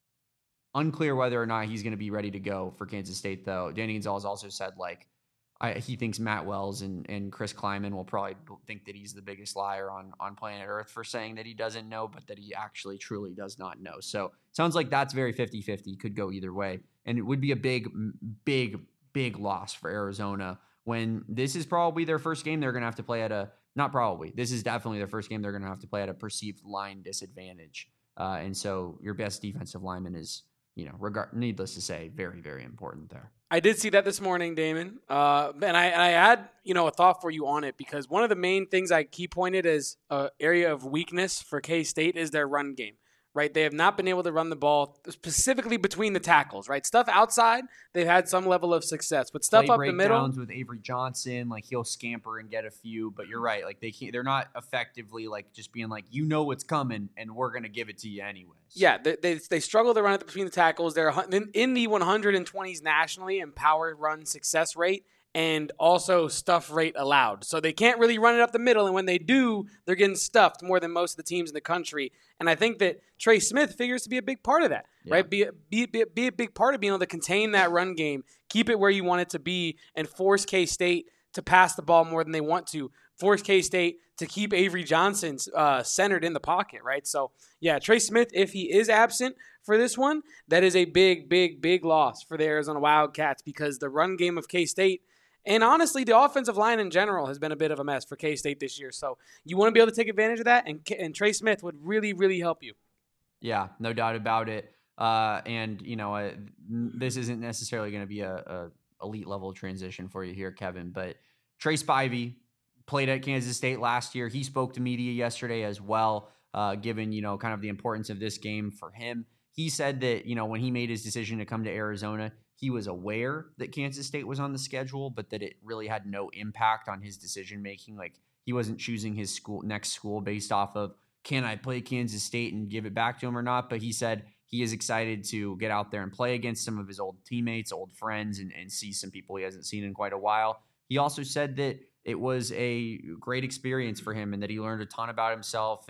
Unclear whether or not he's going to be ready to go for Kansas State, though. Danny Gonzalez also said, like, I, he thinks Matt Wells and, and Chris Kleiman will probably think that he's the biggest liar on, on planet Earth for saying that he doesn't know, but that he actually truly does not know. So sounds like that's very fifty-fifty, could go either way. And it would be a big, big, big loss for Arizona when this is probably their first game they're going to have to play at a, not probably, this is definitely their first game they're going to have to play at a perceived line disadvantage. Uh, and so your best defensive lineman is, you know, regard, needless to say, very, very important there. I did see that this morning, Damon. Uh, and I, I had, you know, a thought for you on it, because one of the main things I key pointed as an area of weakness for K-State is their run game, right? They have not been able to run the ball specifically between the tackles, right? Stuff outside, they've had some level of success, but stuff Play up the middle. breakdowns with Avery Johnson, like he'll scamper and get a few, but you're right. Like they can't, they're not effectively like just being like, you know what's coming and we're going to give it to you anyways. Yeah, they, they they struggle to run it between the tackles. They're in, in the one hundred twenties nationally in power run success rate and also stuff rate allowed. So they can't really run it up the middle, and when they do, they're getting stuffed more than most of the teams in the country. And I think that Trey Smith figures to be a big part of that, yeah. right? Be, be, be, be a big part of being able to contain that run game, keep it where you want it to be, and force K-State to pass the ball more than they want to, force K-State to keep Avery Johnson uh, centered in the pocket, right? So, yeah, Trey Smith, if he is absent for this one, that is a big, big, big loss for the Arizona Wildcats, because the run game of K-State, and honestly, the offensive line in general has been a bit of a mess for K-State this year. So you want to be able to take advantage of that, and, and Trey Smith would really, really help you. Yeah, no doubt about it. Uh, and, you know, uh, this isn't necessarily going to be a, a elite level transition for you here, Kevin, but Trey Spivey played at Kansas State last year. He spoke to media yesterday as well, uh, given, you know, kind of the importance of this game for him. He said that, you know, when he made his decision to come to Arizona, he was aware that Kansas State was on the schedule, but that it really had no impact on his decision-making. Like, he wasn't choosing his school next school based off of, can I play Kansas State and give it back to him or not? But he said he is excited to get out there and play against some of his old teammates, old friends, and, and see some people he hasn't seen in quite a while. He also said that it was a great experience for him and that he learned a ton about himself and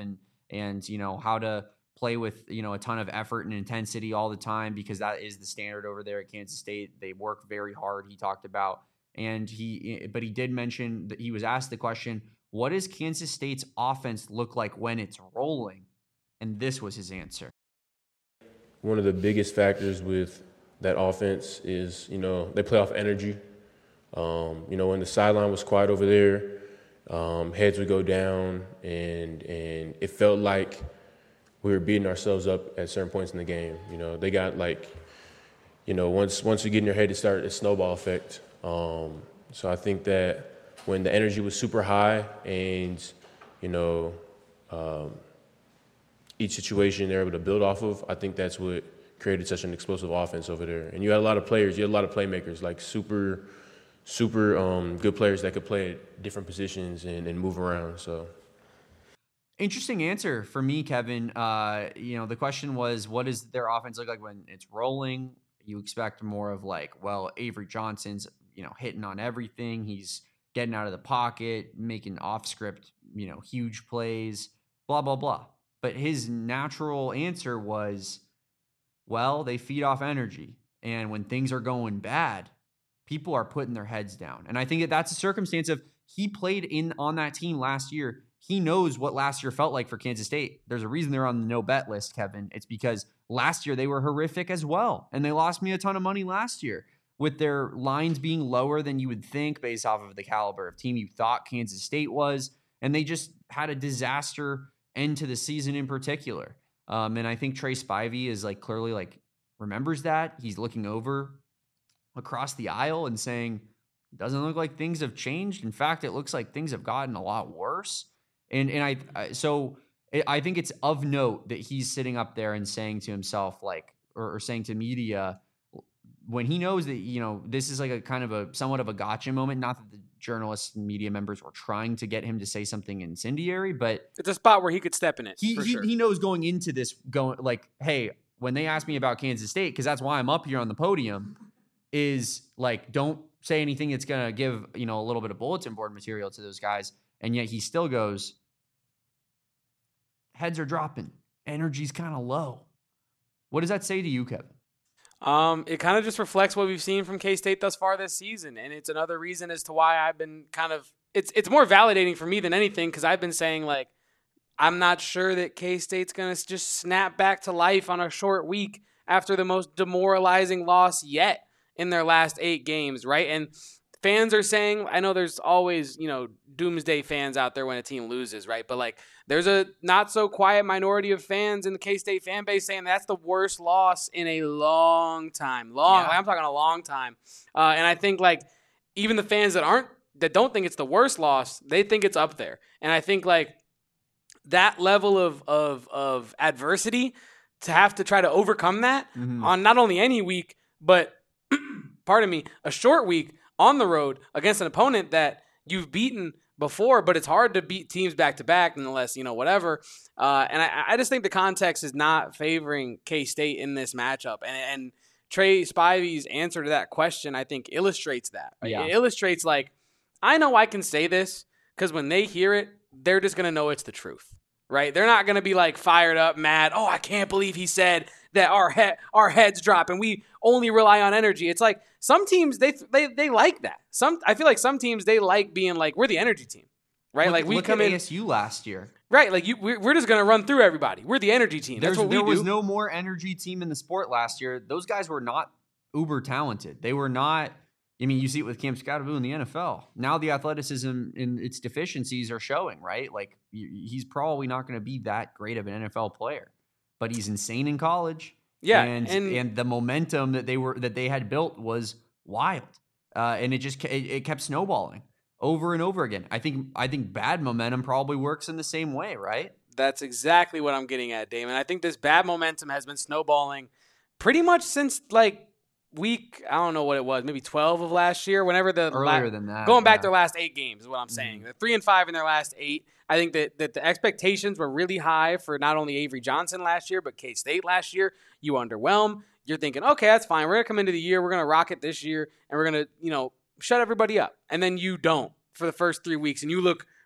and, you know, how to play with, you know, a ton of effort and intensity all the time, because that is the standard over there at Kansas State. They work very hard, he talked about. And he, but he did mention that he was asked the question, what does Kansas State's offense look like when it's rolling? And this was his answer. One of the biggest factors with that offense is, you know, they play off energy. Um, you know, when the sideline was quiet over there, um, heads would go down, and and it felt like we were beating ourselves up at certain points in the game. You know, they got like, you know, once once we get in your head, it started a snowball effect. Um, so I think that when the energy was super high and, you know, um, each situation they're able to build off of, I think that's what created such an explosive offense over there. And you had a lot of players, you had a lot of playmakers, like super, super um, good players that could play at different positions and, and move around. So. Interesting answer for me, Kevin. Uh, you know, the question was, what does their offense look like when it's rolling? You expect more of like, well, Avery Johnson's, you know, hitting on everything. He's getting out of the pocket, making off script, you know, huge plays, blah, blah, blah. But his natural answer was, well, they feed off energy. And when things are going bad, people are putting their heads down. And I think that that's a circumstance of, he played in on that team last year. He knows what last year felt like for Kansas State. There's a reason they're on the no bet list, Kevin. It's because last year they were horrific as well. And they lost me a ton of money last year with their lines being lower than you would think based off of the caliber of team you thought Kansas State was. And they just had a disaster end to the season in particular. Um, and I think Trey Spivey is like clearly like remembers that. He's looking over across the aisle and saying, doesn't look like things have changed. In fact, it looks like things have gotten a lot worse. And and I, I so I think it's of note that he's sitting up there and saying to himself, like, or, or saying to media, when he knows that, you know, this is like a kind of a somewhat of a gotcha moment. Not that the journalists and media members were trying to get him to say something incendiary, but it's a spot where he could step in it. He for he, sure. he knows going into this, going like, hey, when they ask me about Kansas State, because that's why I'm up here on the podium, is like, don't say anything that's gonna give, you know, a little bit of bulletin board material to those guys. And yet he still goes, heads are dropping. Energy's kind of low. What does that say to you, Kevin? Um, it kind of just reflects what we've seen from K-State thus far this season. And it's another reason as to why I've been kind of – it's it's more validating for me than anything, because I've been saying, like, I'm not sure that K-State's going to just snap back to life on a short week after the most demoralizing loss yet in their last eight games, right? And – fans are saying, I know there's always, you know, doomsday fans out there when a team loses, right? But, like, there's a not-so-quiet minority of fans in the K-State fan base saying that's the worst loss in a long time. Long. Yeah. Like, I'm talking a long time. Uh, and I think, like, even the fans that aren't, that don't think it's the worst loss, they think it's up there. And I think, like, that level of of of adversity, to have to try to overcome that mm-hmm. on not only any week, but, pardon me, a short week, on the road against an opponent that you've beaten before, but it's hard to beat teams back to back unless, you know, whatever. Uh, and I, I just think the context is not favoring K-State in this matchup. And, and Trey Spivey's answer to that question, I think, illustrates that. Right? Yeah. It illustrates, like, I know I can say this because when they hear it, they're just going to know it's the truth, right? They're not going to be, like, fired up, mad. Oh, I can't believe he said that our he- our heads drop and we only rely on energy. It's like some teams, they they they like that. Some I feel like some teams, they like being like, we're the energy team, right? Look, like we look come at in A S U last year, right? Like you, we're, we're just gonna run through everybody. We're the energy team. That's There's, what we there do. was no more energy team in the sport last year. Those guys were not uber talented. They were not. I mean, you see it with Cam Scottaboo in the N F L. Now the athleticism and its deficiencies are showing, right? Like he's probably not going to be that great of an N F L player, but he's insane in college. Yeah, and, and and the momentum that they were that they had built was wild, uh, and it just it, it kept snowballing over and over again. I think I think bad momentum probably works in the same way, right? That's exactly what I'm getting at, Damon. I think this bad momentum has been snowballing pretty much since like week I don't know what it was, maybe twelve of last year. Whenever the earlier la- than that, going back yeah. their last eight games is what I'm saying. Mm-hmm. They're three and five in their last eight. I think that, that the expectations were really high for not only Avery Johnson last year, but K-State last year. You underwhelm. You're thinking, okay, that's fine. We're going to come into the year. We're going to rock it this year, and we're going to, you know, shut everybody up. And then you don't for the first three weeks, and you look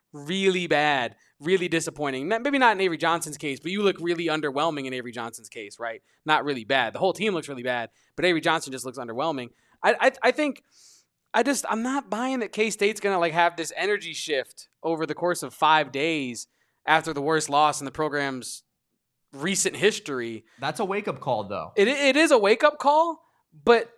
really bad, really disappointing. Maybe not in Avery Johnson's case, but you look really underwhelming in Avery Johnson's case, right? Not really bad. The whole team looks really bad, but Avery Johnson just looks underwhelming. I I, I think I just I'm not buying that K-State's gonna like have this energy shift over the course of five days after the worst loss in the program's recent history. That's a wake up call, though. It it is a wake up call, but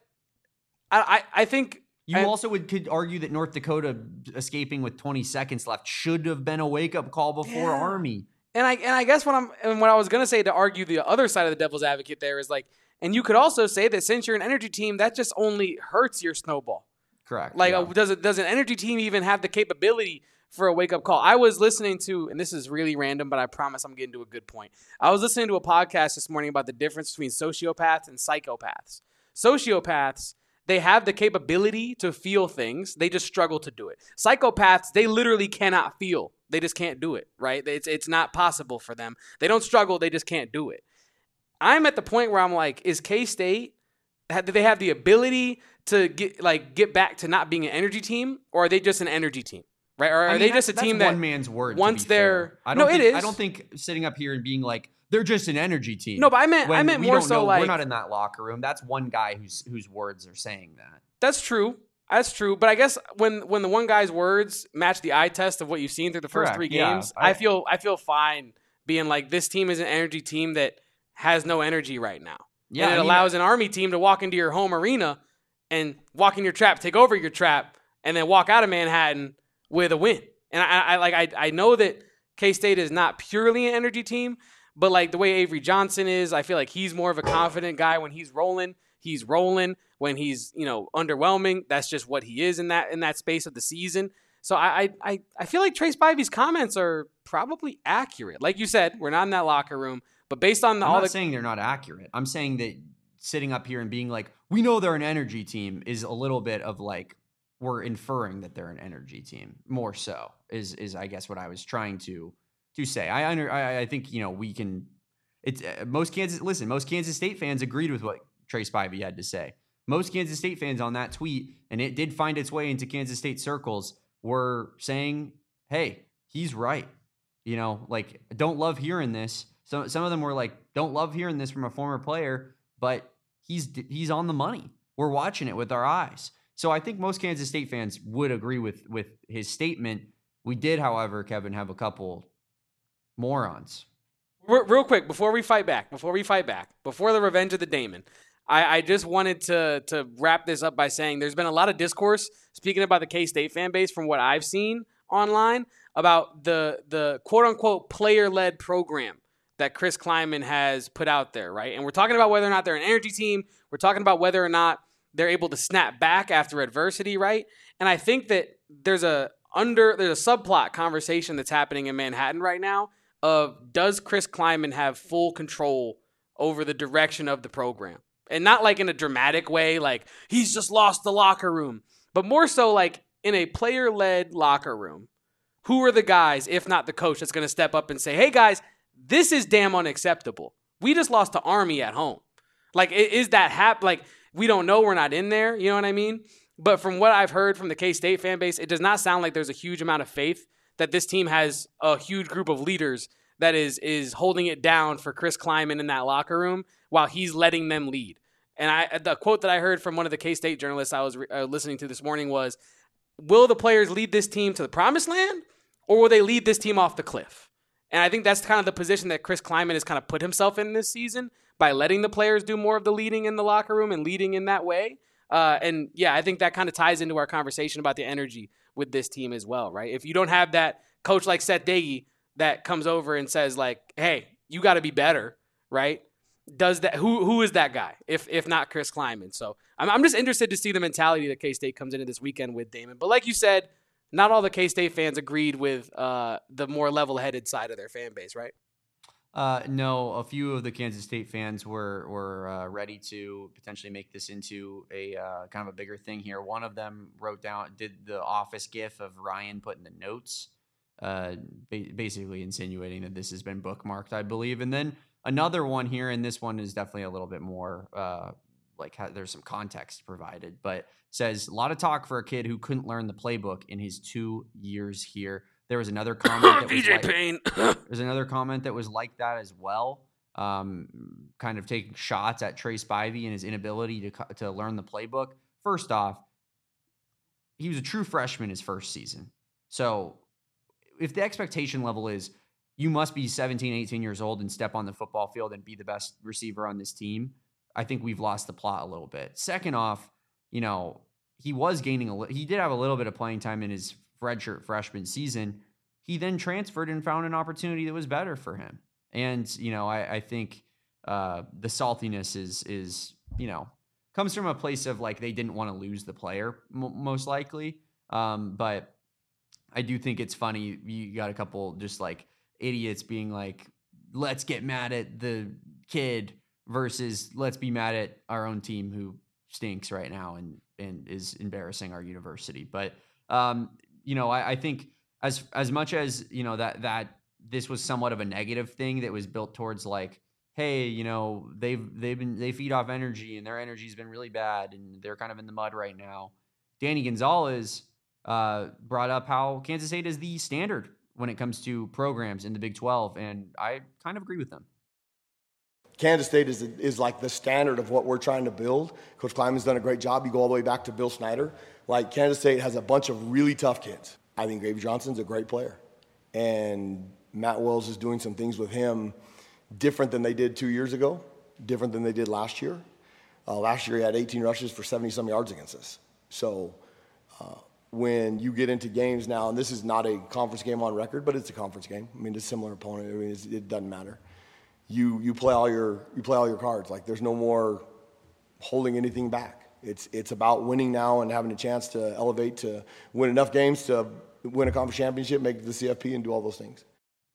I I, I think. You and, also would could argue that North Dakota escaping with twenty seconds left should have been a wake up call before yeah. Army. And I and I guess what I'm and what I was gonna say to argue the other side of the devil's advocate there is like, and you could also say that since you're an energy team, that just only hurts your snowball. Correct. Like, yeah. does it does an energy team even have the capability for a wake up call? I was listening to, and this is really random, but I promise I'm getting to a good point. I was listening to a podcast this morning about the difference between sociopaths and psychopaths. Sociopaths, they have the capability to feel things. They just struggle to do it. Psychopaths, they literally cannot feel. They just can't do it, right? It's it's not possible for them. They don't struggle. They just can't do it. I'm at the point where I'm like, is K-State, do they have the ability to get like get back to not being an energy team, or are they just an energy team, right? Or are I mean, they just a team that one man's word? Once they're, fair. I don't no, think, it is. I don't think sitting up here and being like, they're just an energy team. No, but I meant I meant we more don't so know, like we're not in that locker room. That's one guy whose whose words are saying that. That's true. That's true. But I guess when when the one guy's words match the eye test of what you've seen through the first Correct. three Yeah. games, I, I feel I feel fine being like, this team is an energy team that has no energy right now. Yeah, and it I mean, allows an Army team to walk into your home arena and walk in your trap, take over your trap, and then walk out of Manhattan with a win. And I, I like I I know that K-State is not purely an energy team, but like the way Avery Johnson is, I feel like he's more of a confident guy when he's rolling. He's rolling. When he's, you know, underwhelming, that's just what he is in that in that space of the season. So I I I feel like Trace Spivey's comments are probably accurate. Like you said, we're not in that locker room, but based on the, I'm all not the saying they're not accurate. I'm saying that sitting up here and being like, we know they're an energy team is a little bit of like, we're inferring that they're an energy team more so is, is I guess what I was trying to, to say. I under, I, I think, you know, we can, it's uh, most Kansas, listen, most Kansas State fans agreed with what Trace Spivey had to say. Most Kansas State fans on that tweet, and it did find its way into Kansas State circles, were saying, hey, he's right. You know, like, don't love hearing this. So some of them were like, don't love hearing this from a former player, but he's he's on the money. We're watching it with our eyes. So I think most Kansas State fans would agree with with his statement. We did, however, Kevin, have a couple morons. Real quick, before we fight back, before we fight back, before the revenge of the Damon, I, I just wanted to to wrap this up by saying there's been a lot of discourse, speaking about the K-State fan base from what I've seen online, about the the quote-unquote player-led program that Chris Klieman has put out there, right? And we're talking about whether or not they're an energy team. We're talking about whether or not they're able to snap back after adversity, right? And I think that there's a under there's a subplot conversation that's happening in Manhattan right now of, does Chris Klieman have full control over the direction of the program? And not like in a dramatic way, like he's just lost the locker room, but more so like in a player-led locker room. Who are the guys, if not the coach, that's going to step up and say, hey guys, this is damn unacceptable. We just lost to Army at home. Like, is that hap? Like, we don't know. We're not in there. You know what I mean? But from what I've heard from the K-State fan base, it does not sound like there's a huge amount of faith that this team has a huge group of leaders that is is holding it down for Chris Klieman in that locker room while he's letting them lead. And I, the quote that I heard from one of the K-State journalists I was uh, listening to this morning was, will the players lead this team to the promised land, or will they lead this team off the cliff? And I think that's kind of the position that Chris Klieman has kind of put himself in this season by letting the players do more of the leading in the locker room and leading in that way. Uh, and yeah, I think that kind of ties into our conversation about the energy with this team as well, right? If you don't have that coach like Seth Doege that comes over and says like, hey, you got to be better, right? Does that, who who is that guy if if not Chris Klieman? So I'm I'm just interested to see the mentality that K-State comes into this weekend with, Damon. But like you said, not all the K-State fans agreed with uh, the more level-headed side of their fan base, right? Uh, no, a few of the Kansas State fans were were uh, ready to potentially make this into a uh, kind of a bigger thing here. One of them wrote down, did the office gif of Ryan putting the notes, uh, ba- basically insinuating that this has been bookmarked, I believe. And then another one here, and this one is definitely a little bit more uh, like how, there's some context provided, but says a lot of talk for a kid who couldn't learn the playbook in his two years here. There was another comment that B was J like, Payne. there's another comment that was like that as well. Um, kind of taking shots at Trey Spivey and his inability to to learn the playbook. First off, he was a true freshman his first season. So if the expectation level is you must be seventeen, eighteen years old and step on the football field and be the best receiver on this team, I think we've lost the plot a little bit. Second off, you know, he was gaining a li- he did have a little bit of playing time in his redshirt freshman season. He then transferred and found an opportunity that was better for him. And, you know, I, I think uh, the saltiness is, is, you know, comes from a place of like, they didn't want to lose the player m- most likely. Um, but I do think it's funny. You got a couple just like idiots being like, let's get mad at the kid versus let's be mad at our own team who stinks right now and, and is embarrassing our university. But, um, you know, I, I think as, as much as, you know, that, that this was somewhat of a negative thing that was built towards like, hey, you know, they've, they've been, they feed off energy and their energy has been really bad and they're kind of in the mud right now. Danny Gonzalez uh, brought up how Kansas State is the standard when it comes to programs in the Big twelve. And I kind of agree with them. Kansas State is is like the standard of what we're trying to build. Coach Kleiman's done a great job. You go all the way back to Bill Snyder. Like, Kansas State has a bunch of really tough kids. I think Gravy Johnson's a great player. And Matt Wells is doing some things with him different than they did two years ago, different than they did last year. Uh, last year he had eighteen rushes for seventy-some yards against us. So uh, when you get into games now, and this is not a conference game on record, but it's a conference game. I mean, it's a similar opponent. I mean, it's, it doesn't matter. You you play all your you play all your cards. Like, there's no more holding anything back. It's it's about winning now and having a chance to elevate to win enough games to win a conference championship, make it to the C F P, and do all those things.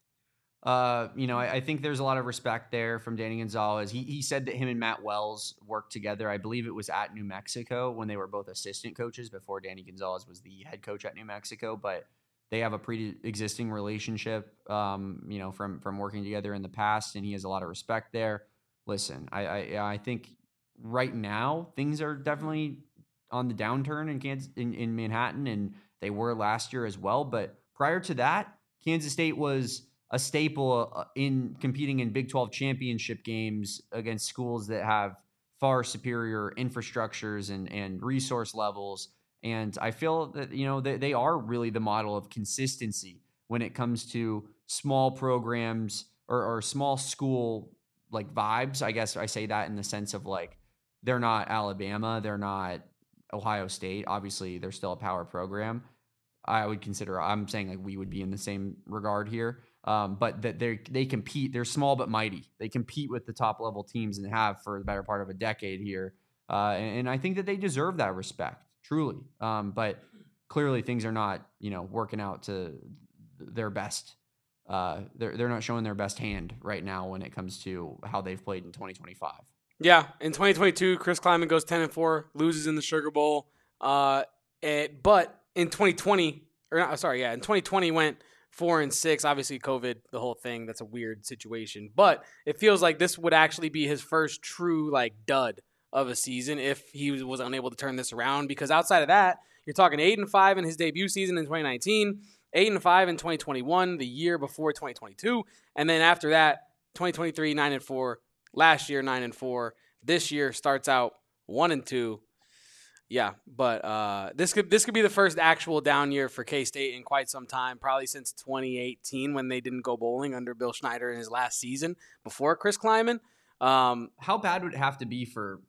Uh, you know, I, I think there's a lot of respect there from Danny Gonzalez. He he said that him and Matt Wells worked together. I believe it was at New Mexico when they were both assistant coaches before Danny Gonzalez was the head coach at New Mexico. But they have a pre-existing relationship, um, you know, from from working together in the past, and he has a lot of respect there. Listen, I I, I think right now things are definitely on the downturn in Kansas in, in Manhattan, and they were last year as well. But prior to that, Kansas State was a staple in competing in Big twelve championship games against schools that have far superior infrastructures and, and resource levels. And I feel that, you know, they, they are really the model of consistency when it comes to small programs or, or small school like vibes. I guess I say that in the sense of like, they're not Alabama, they're not Ohio State. Obviously, they're still a power program. I would consider, I'm saying like we would be in the same regard here. Um, but that they they compete. They're small but mighty. They compete with the top level teams and have for the better part of a decade here. Uh, and, and I think that they deserve that respect, truly. Um, but clearly things are not, you know, working out to their best. Uh, they're they're not showing their best hand right now when it comes to how they've played in twenty twenty-five. Yeah, in twenty twenty-two, Chris Kleiman goes ten and four, loses in the Sugar Bowl. Uh, it, but in twenty twenty, or not, sorry, yeah, in twenty twenty went four and six. Obviously, COVID, the whole thing. That's a weird situation. But it feels like this would actually be his first true like dud of a season if he was, was unable to turn this around. Because outside of that, you're talking eight and five in his debut season in twenty nineteen, eight and five in twenty twenty-one, the year before twenty twenty-two, and then after that, twenty twenty-three nine and four. Last year nine and four. This year starts out one and two. Yeah, but uh, this could this could be the first actual down year for K-State in quite some time, probably since twenty eighteen when they didn't go bowling under Bill Schneider in his last season before Chris Kleiman. Um, How bad would it have to be for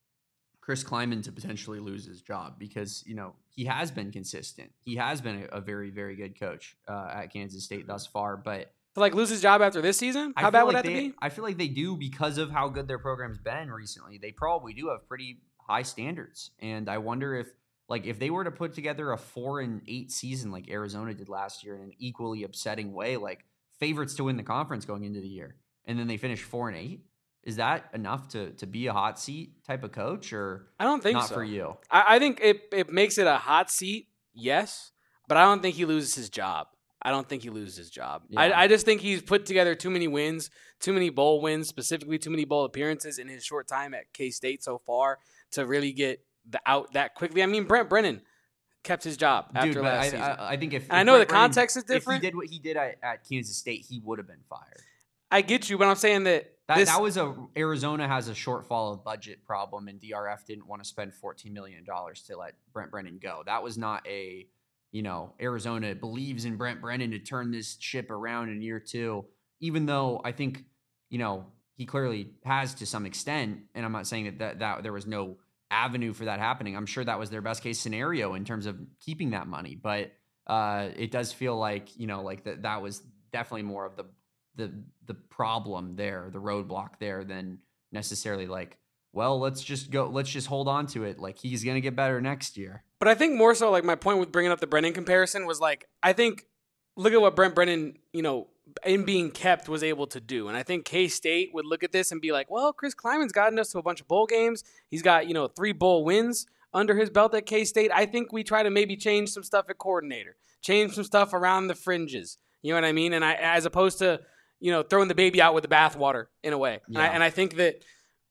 Chris Kleiman to potentially lose his job? Because, you know, he has been consistent. He has been a, a very, very good coach uh, at Kansas State thus far. But to like lose his job after this season? How I bad would like that they, be? I feel like they do because of how good their program's been recently. They probably do have pretty high standards. And I wonder if, like, if they were to put together a four and eight season like Arizona did last year in an equally upsetting way, like favorites to win the conference going into the year, and then they finish four and eight, is that enough to to be a hot seat type of coach, or I don't think not so. for you? I, I think it, it makes it a hot seat, yes, but I don't think he loses his job. I don't think he loses his job. Yeah. I, I just think he's put together too many wins, too many bowl wins, specifically too many bowl appearances in his short time at K-State so far to really get the out that quickly. I mean, Brent Brennan kept his job after Dude, last I, season. I, I think if And I if know Brent the Brennan- context is different. If he did what he did at, at Kansas State, he would have been fired. I get you, but I'm saying that That this, that was a Arizona has a shortfall of budget problem, and D R F didn't want to spend fourteen million dollars to let Brent Brennan go. That was not a, you know, Arizona believes in Brent Brennan to turn this ship around in year two. Even though I think, you know, he clearly has to some extent, and I'm not saying that that, that there was no avenue for that happening. I'm sure that was their best case scenario in terms of keeping that money, but uh, it does feel like, you know, like that that was definitely more of the the the problem there, the roadblock there, than necessarily like, well, let's just go, let's just hold on to it. Like he's gonna get better next year. But I think more so, like my point with bringing up the Brennan comparison was like, I think look at what Brent Brennan, you know, in being kept was able to do. And I think K-State would look at this and be like, well, Chris Kleiman's gotten us to a bunch of bowl games. He's got, you know, three bowl wins under his belt at K-State. I think we try to maybe change some stuff at coordinator, change some stuff around the fringes. You know what I mean? And I, as opposed to, you know, throwing the baby out with the bathwater in a way. Yeah. And, I, and I think that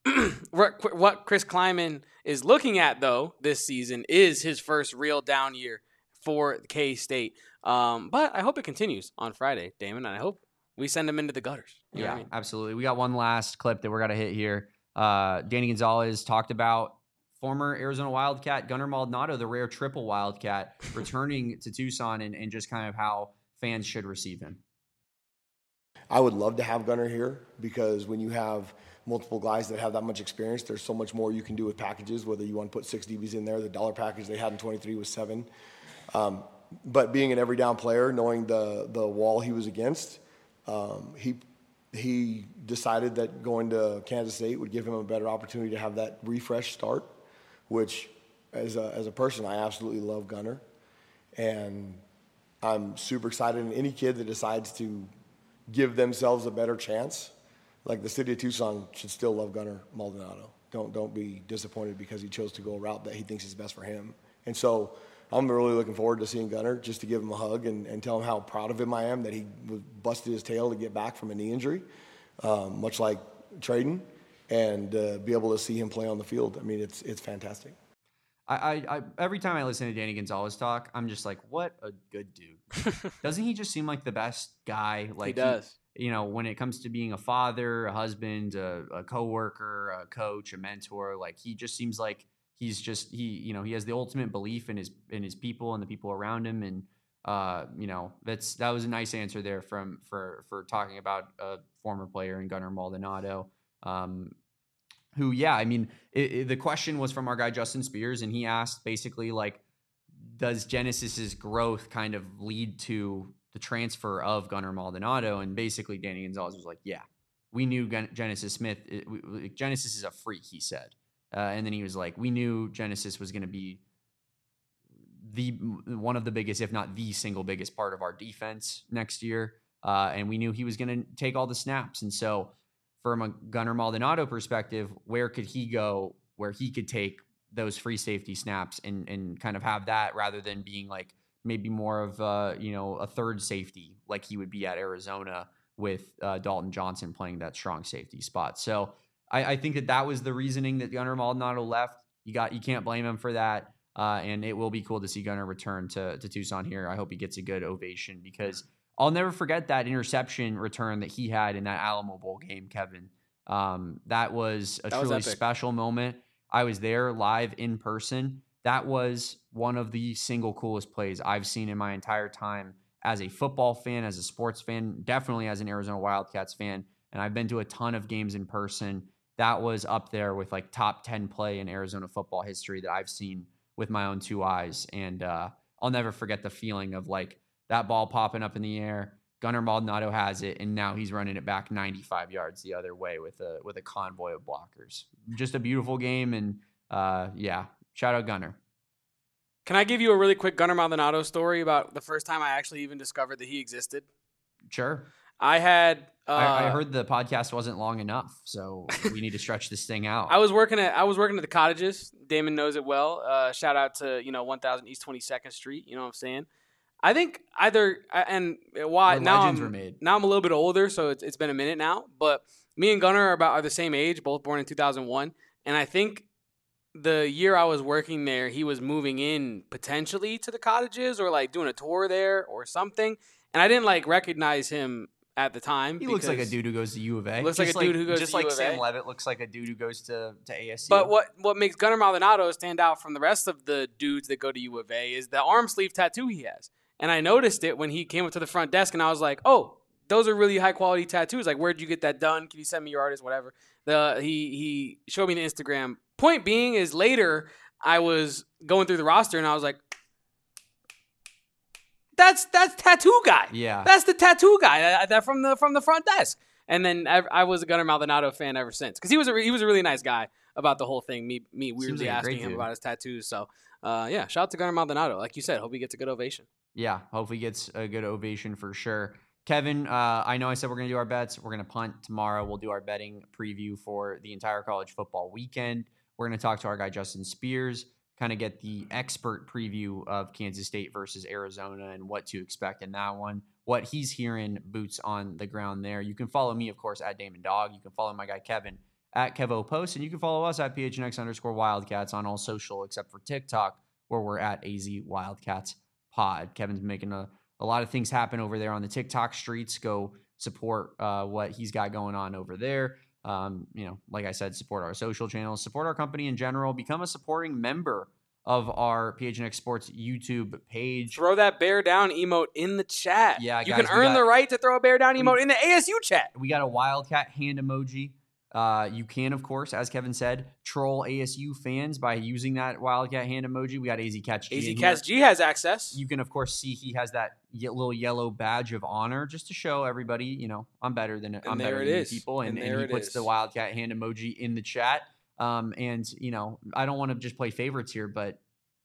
what Chris Kleiman is looking at, though, this season is his first real down year for K-State. Um, but I hope it continues on Friday, Damon, and I hope we send him into the gutters. You know Yeah, what I mean? absolutely. We got one last clip that we're going to hit here. Uh, Danny Gonzalez talked about former Arizona Wildcat Gunnar Maldonado, the rare triple Wildcat, returning to Tucson, and, and just kind of how fans should receive him. I would love to have Gunnar here because when you have multiple guys that have that much experience, there's so much more you can do with packages, whether you want to put six D Bs in there. The dollar package they had in twenty-three was seven. Um, but being an every down player, knowing the, the wall he was against, um, he he decided that going to Kansas State would give him a better opportunity to have that refresh start, which as a, as a person, I absolutely love Gunnar. And I'm super excited. And any kid that decides to give themselves a better chance, like the city of Tucson should still love Gunnar Maldonado. Don't don't be disappointed because he chose to go a route that he thinks is best for him. And so I'm really looking forward to seeing Gunnar, just to give him a hug and, and tell him how proud of him I am that he busted his tail to get back from a knee injury, um, much like Traden, and uh, be able to see him play on the field. I mean, it's it's fantastic. I, I, I every time I listen to Danny Gonzalez talk, I'm just like, what a good dude. Doesn't he just seem like the best guy? Like he does. He, you know, when it comes to being a father, a husband, a, a coworker, a coach, a mentor, like he just seems like he's just he, you know, he has the ultimate belief in his in his people and the people around him, and uh, you know, that's that was a nice answer there from for for talking about a former player in Gunnar Maldonado. Um, Who, yeah, I mean, it, it, the question was from our guy Justin Spears, and he asked basically like, does Genesis's growth kind of lead to the transfer of Gunnar Maldonado? And basically, Danny Gonzalez was like, yeah, we knew Gen- Genesis Smith. It, we, Genesis is a freak, he said, uh, and then he was like, we knew Genesis was going to be the one of the biggest, if not the single biggest part of our defense next year, uh, and we knew he was going to take all the snaps, and so. From a Gunnar Maldonado perspective, where could he go where he could take those free safety snaps and and kind of have that rather than being like maybe more of uh, you know, a third safety like he would be at Arizona with uh, Dalton Johnson playing that strong safety spot. So I, I think that that was the reasoning that Gunnar Maldonado left. You got you can't blame him for that, uh, and it will be cool to see Gunnar return to to Tucson here. I hope he gets a good ovation because. I'll never forget that interception return that he had in that Alamo Bowl game, Kevin. Um, that was a that truly was special moment. I was there live in person. That was one of the single coolest plays I've seen in my entire time as a football fan, as a sports fan, definitely as an Arizona Wildcats fan. And I've been to a ton of games in person. That was up there with like top ten play in Arizona football history that I've seen with my own two eyes. And uh, I'll never forget the feeling of like, that ball popping up in the air, Gunnar Maldonado has it, and now he's running it back ninety-five yards the other way with a with a convoy of blockers. Just a beautiful game, and uh, yeah, shout out Gunnar. Can I give you a really quick Gunnar Maldonado story about the first time I actually even discovered that he existed? Sure. I had. Uh, I, I heard the podcast wasn't long enough, so we need to stretch this thing out. I was working at I was working at the Cottages. Damon knows it well. Uh, shout out to you know one thousand East twenty-second Street. You know what I'm saying? I think either and why Where now legends I'm were made. now I'm a little bit older, so it's it's been a minute now. But me and Gunnar are about are the same age, both born in two thousand one, and I think the year I was working there, he was moving in potentially to the cottages or like doing a tour there or something. And I didn't like recognize him at the time. He looks like a dude who goes to U of A. Looks like a dude who goes just to like U of A. Sam Levitt looks like a dude who goes to, to A S U. But what, what makes Gunnar Maldonado stand out from the rest of the dudes that go to U of A is the arm sleeve tattoo he has. And I noticed it when he came up to the front desk, and I was like, oh, those are really high-quality tattoos. Like, where'd you get that done? Can you send me your artist, whatever? The He he showed me the Instagram. Point being is later I was going through the roster, and I was like, That's that's tattoo guy. Yeah, that's the tattoo guy that, that from the from the front desk. And then I, I was a Gunnar Maldonado fan ever since because he was a he was a really nice guy about the whole thing. Me me weirdly like asking him dude. about his tattoos. So uh, yeah, shout out to Gunnar Maldonado. Like you said, hope he gets a good ovation. Yeah, hope he gets a good ovation for sure. Kevin, uh, I know I said we're gonna do our bets. We're gonna punt tomorrow. We'll do our betting preview for the entire college football weekend. We're gonna talk to our guy Justin Spears. Kind of get the expert preview of Kansas State versus Arizona and what to expect in that one, what he's hearing boots on the ground there. You can follow me, of course, at Damon Dog. You can follow my guy Kevin at Kevo Post, and you can follow us at P H N X underscore Wildcats on all social except for TikTok, where we're at A Z Wildcats Pod. Kevin's making a, a lot of things happen over there on the TikTok streets. Go support uh, what he's got going on over there. Um, you know, like I said, support our social channels, support our company in general, become a supporting member of our P H N X Sports YouTube page. Throw that bear down emote in the chat. Yeah, you guys, can earn got, the right to throw a bear down emote we, in the A S U chat. We got a Wildcat hand emoji. Uh, you can, of course, as Kevin said, troll A S U fans by using that Wildcat hand emoji. We got A Z Catch G. A Z Catch G has access. You can, of course, see he has that little yellow badge of honor just to show everybody, you know, I'm better than and I'm there better it than is. you people. And, and, and he it puts is. the Wildcat hand emoji in the chat. Um, and, you know, I don't want to just play favorites here, but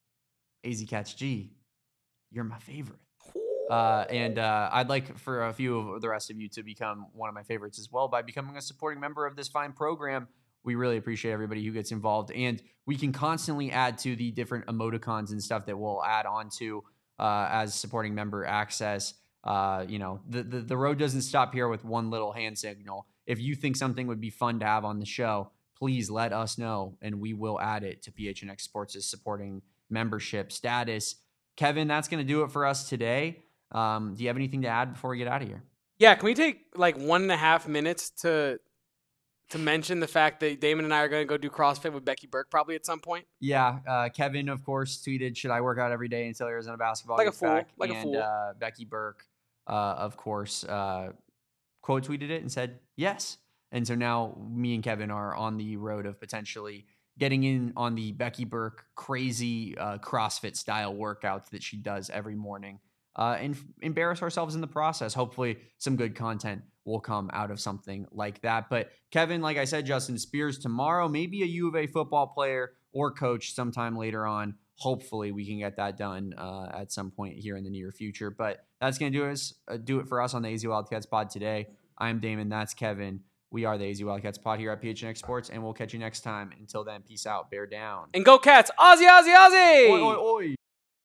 A Z Catch G, you're my favorite. Uh, and uh, I'd like for a few of the rest of you to become one of my favorites as well by becoming a supporting member of this fine program. We really appreciate everybody who gets involved. And we can constantly add to the different emoticons and stuff that we'll add on to uh, as supporting member access. Uh, you know, the, the, the road doesn't stop here with one little hand signal. If you think something would be fun to have on the show, please let us know, and we will add it to P H N X Sports' supporting membership status. Kevin, that's going to do it for us today. Um, do you have anything to add before we get out of here? Yeah, can we take like one and a half minutes to to mention the fact that Damon and I are going to go do CrossFit with Becky Burke probably at some point? Yeah, uh, Kevin, of course, tweeted, should I work out every day until Arizona basketball like gets a fool, back? Like and, a fool. Uh, Becky Burke, uh, of course, uh, quote tweeted it and said, yes. And so now me and Kevin are on the road of potentially getting in on the Becky Burke crazy uh, CrossFit style workouts that she does every morning. Uh, and f- embarrass ourselves in the process. Hopefully some good content will come out of something like that. But Kevin, like I said, Justin Spears tomorrow, maybe a U of A football player or coach sometime later on. Hopefully we can get that done uh, at some point here in the near future. But that's going to do us uh, do it for us on the A Z Wildcats pod today. I'm Damon. That's Kevin. We are the A Z Wildcats pod here at P H N X Sports, and we'll catch you next time. Until then, peace out. Bear down. And go Cats. Aussie, Aussie, Aussie. Oi, oi, oi.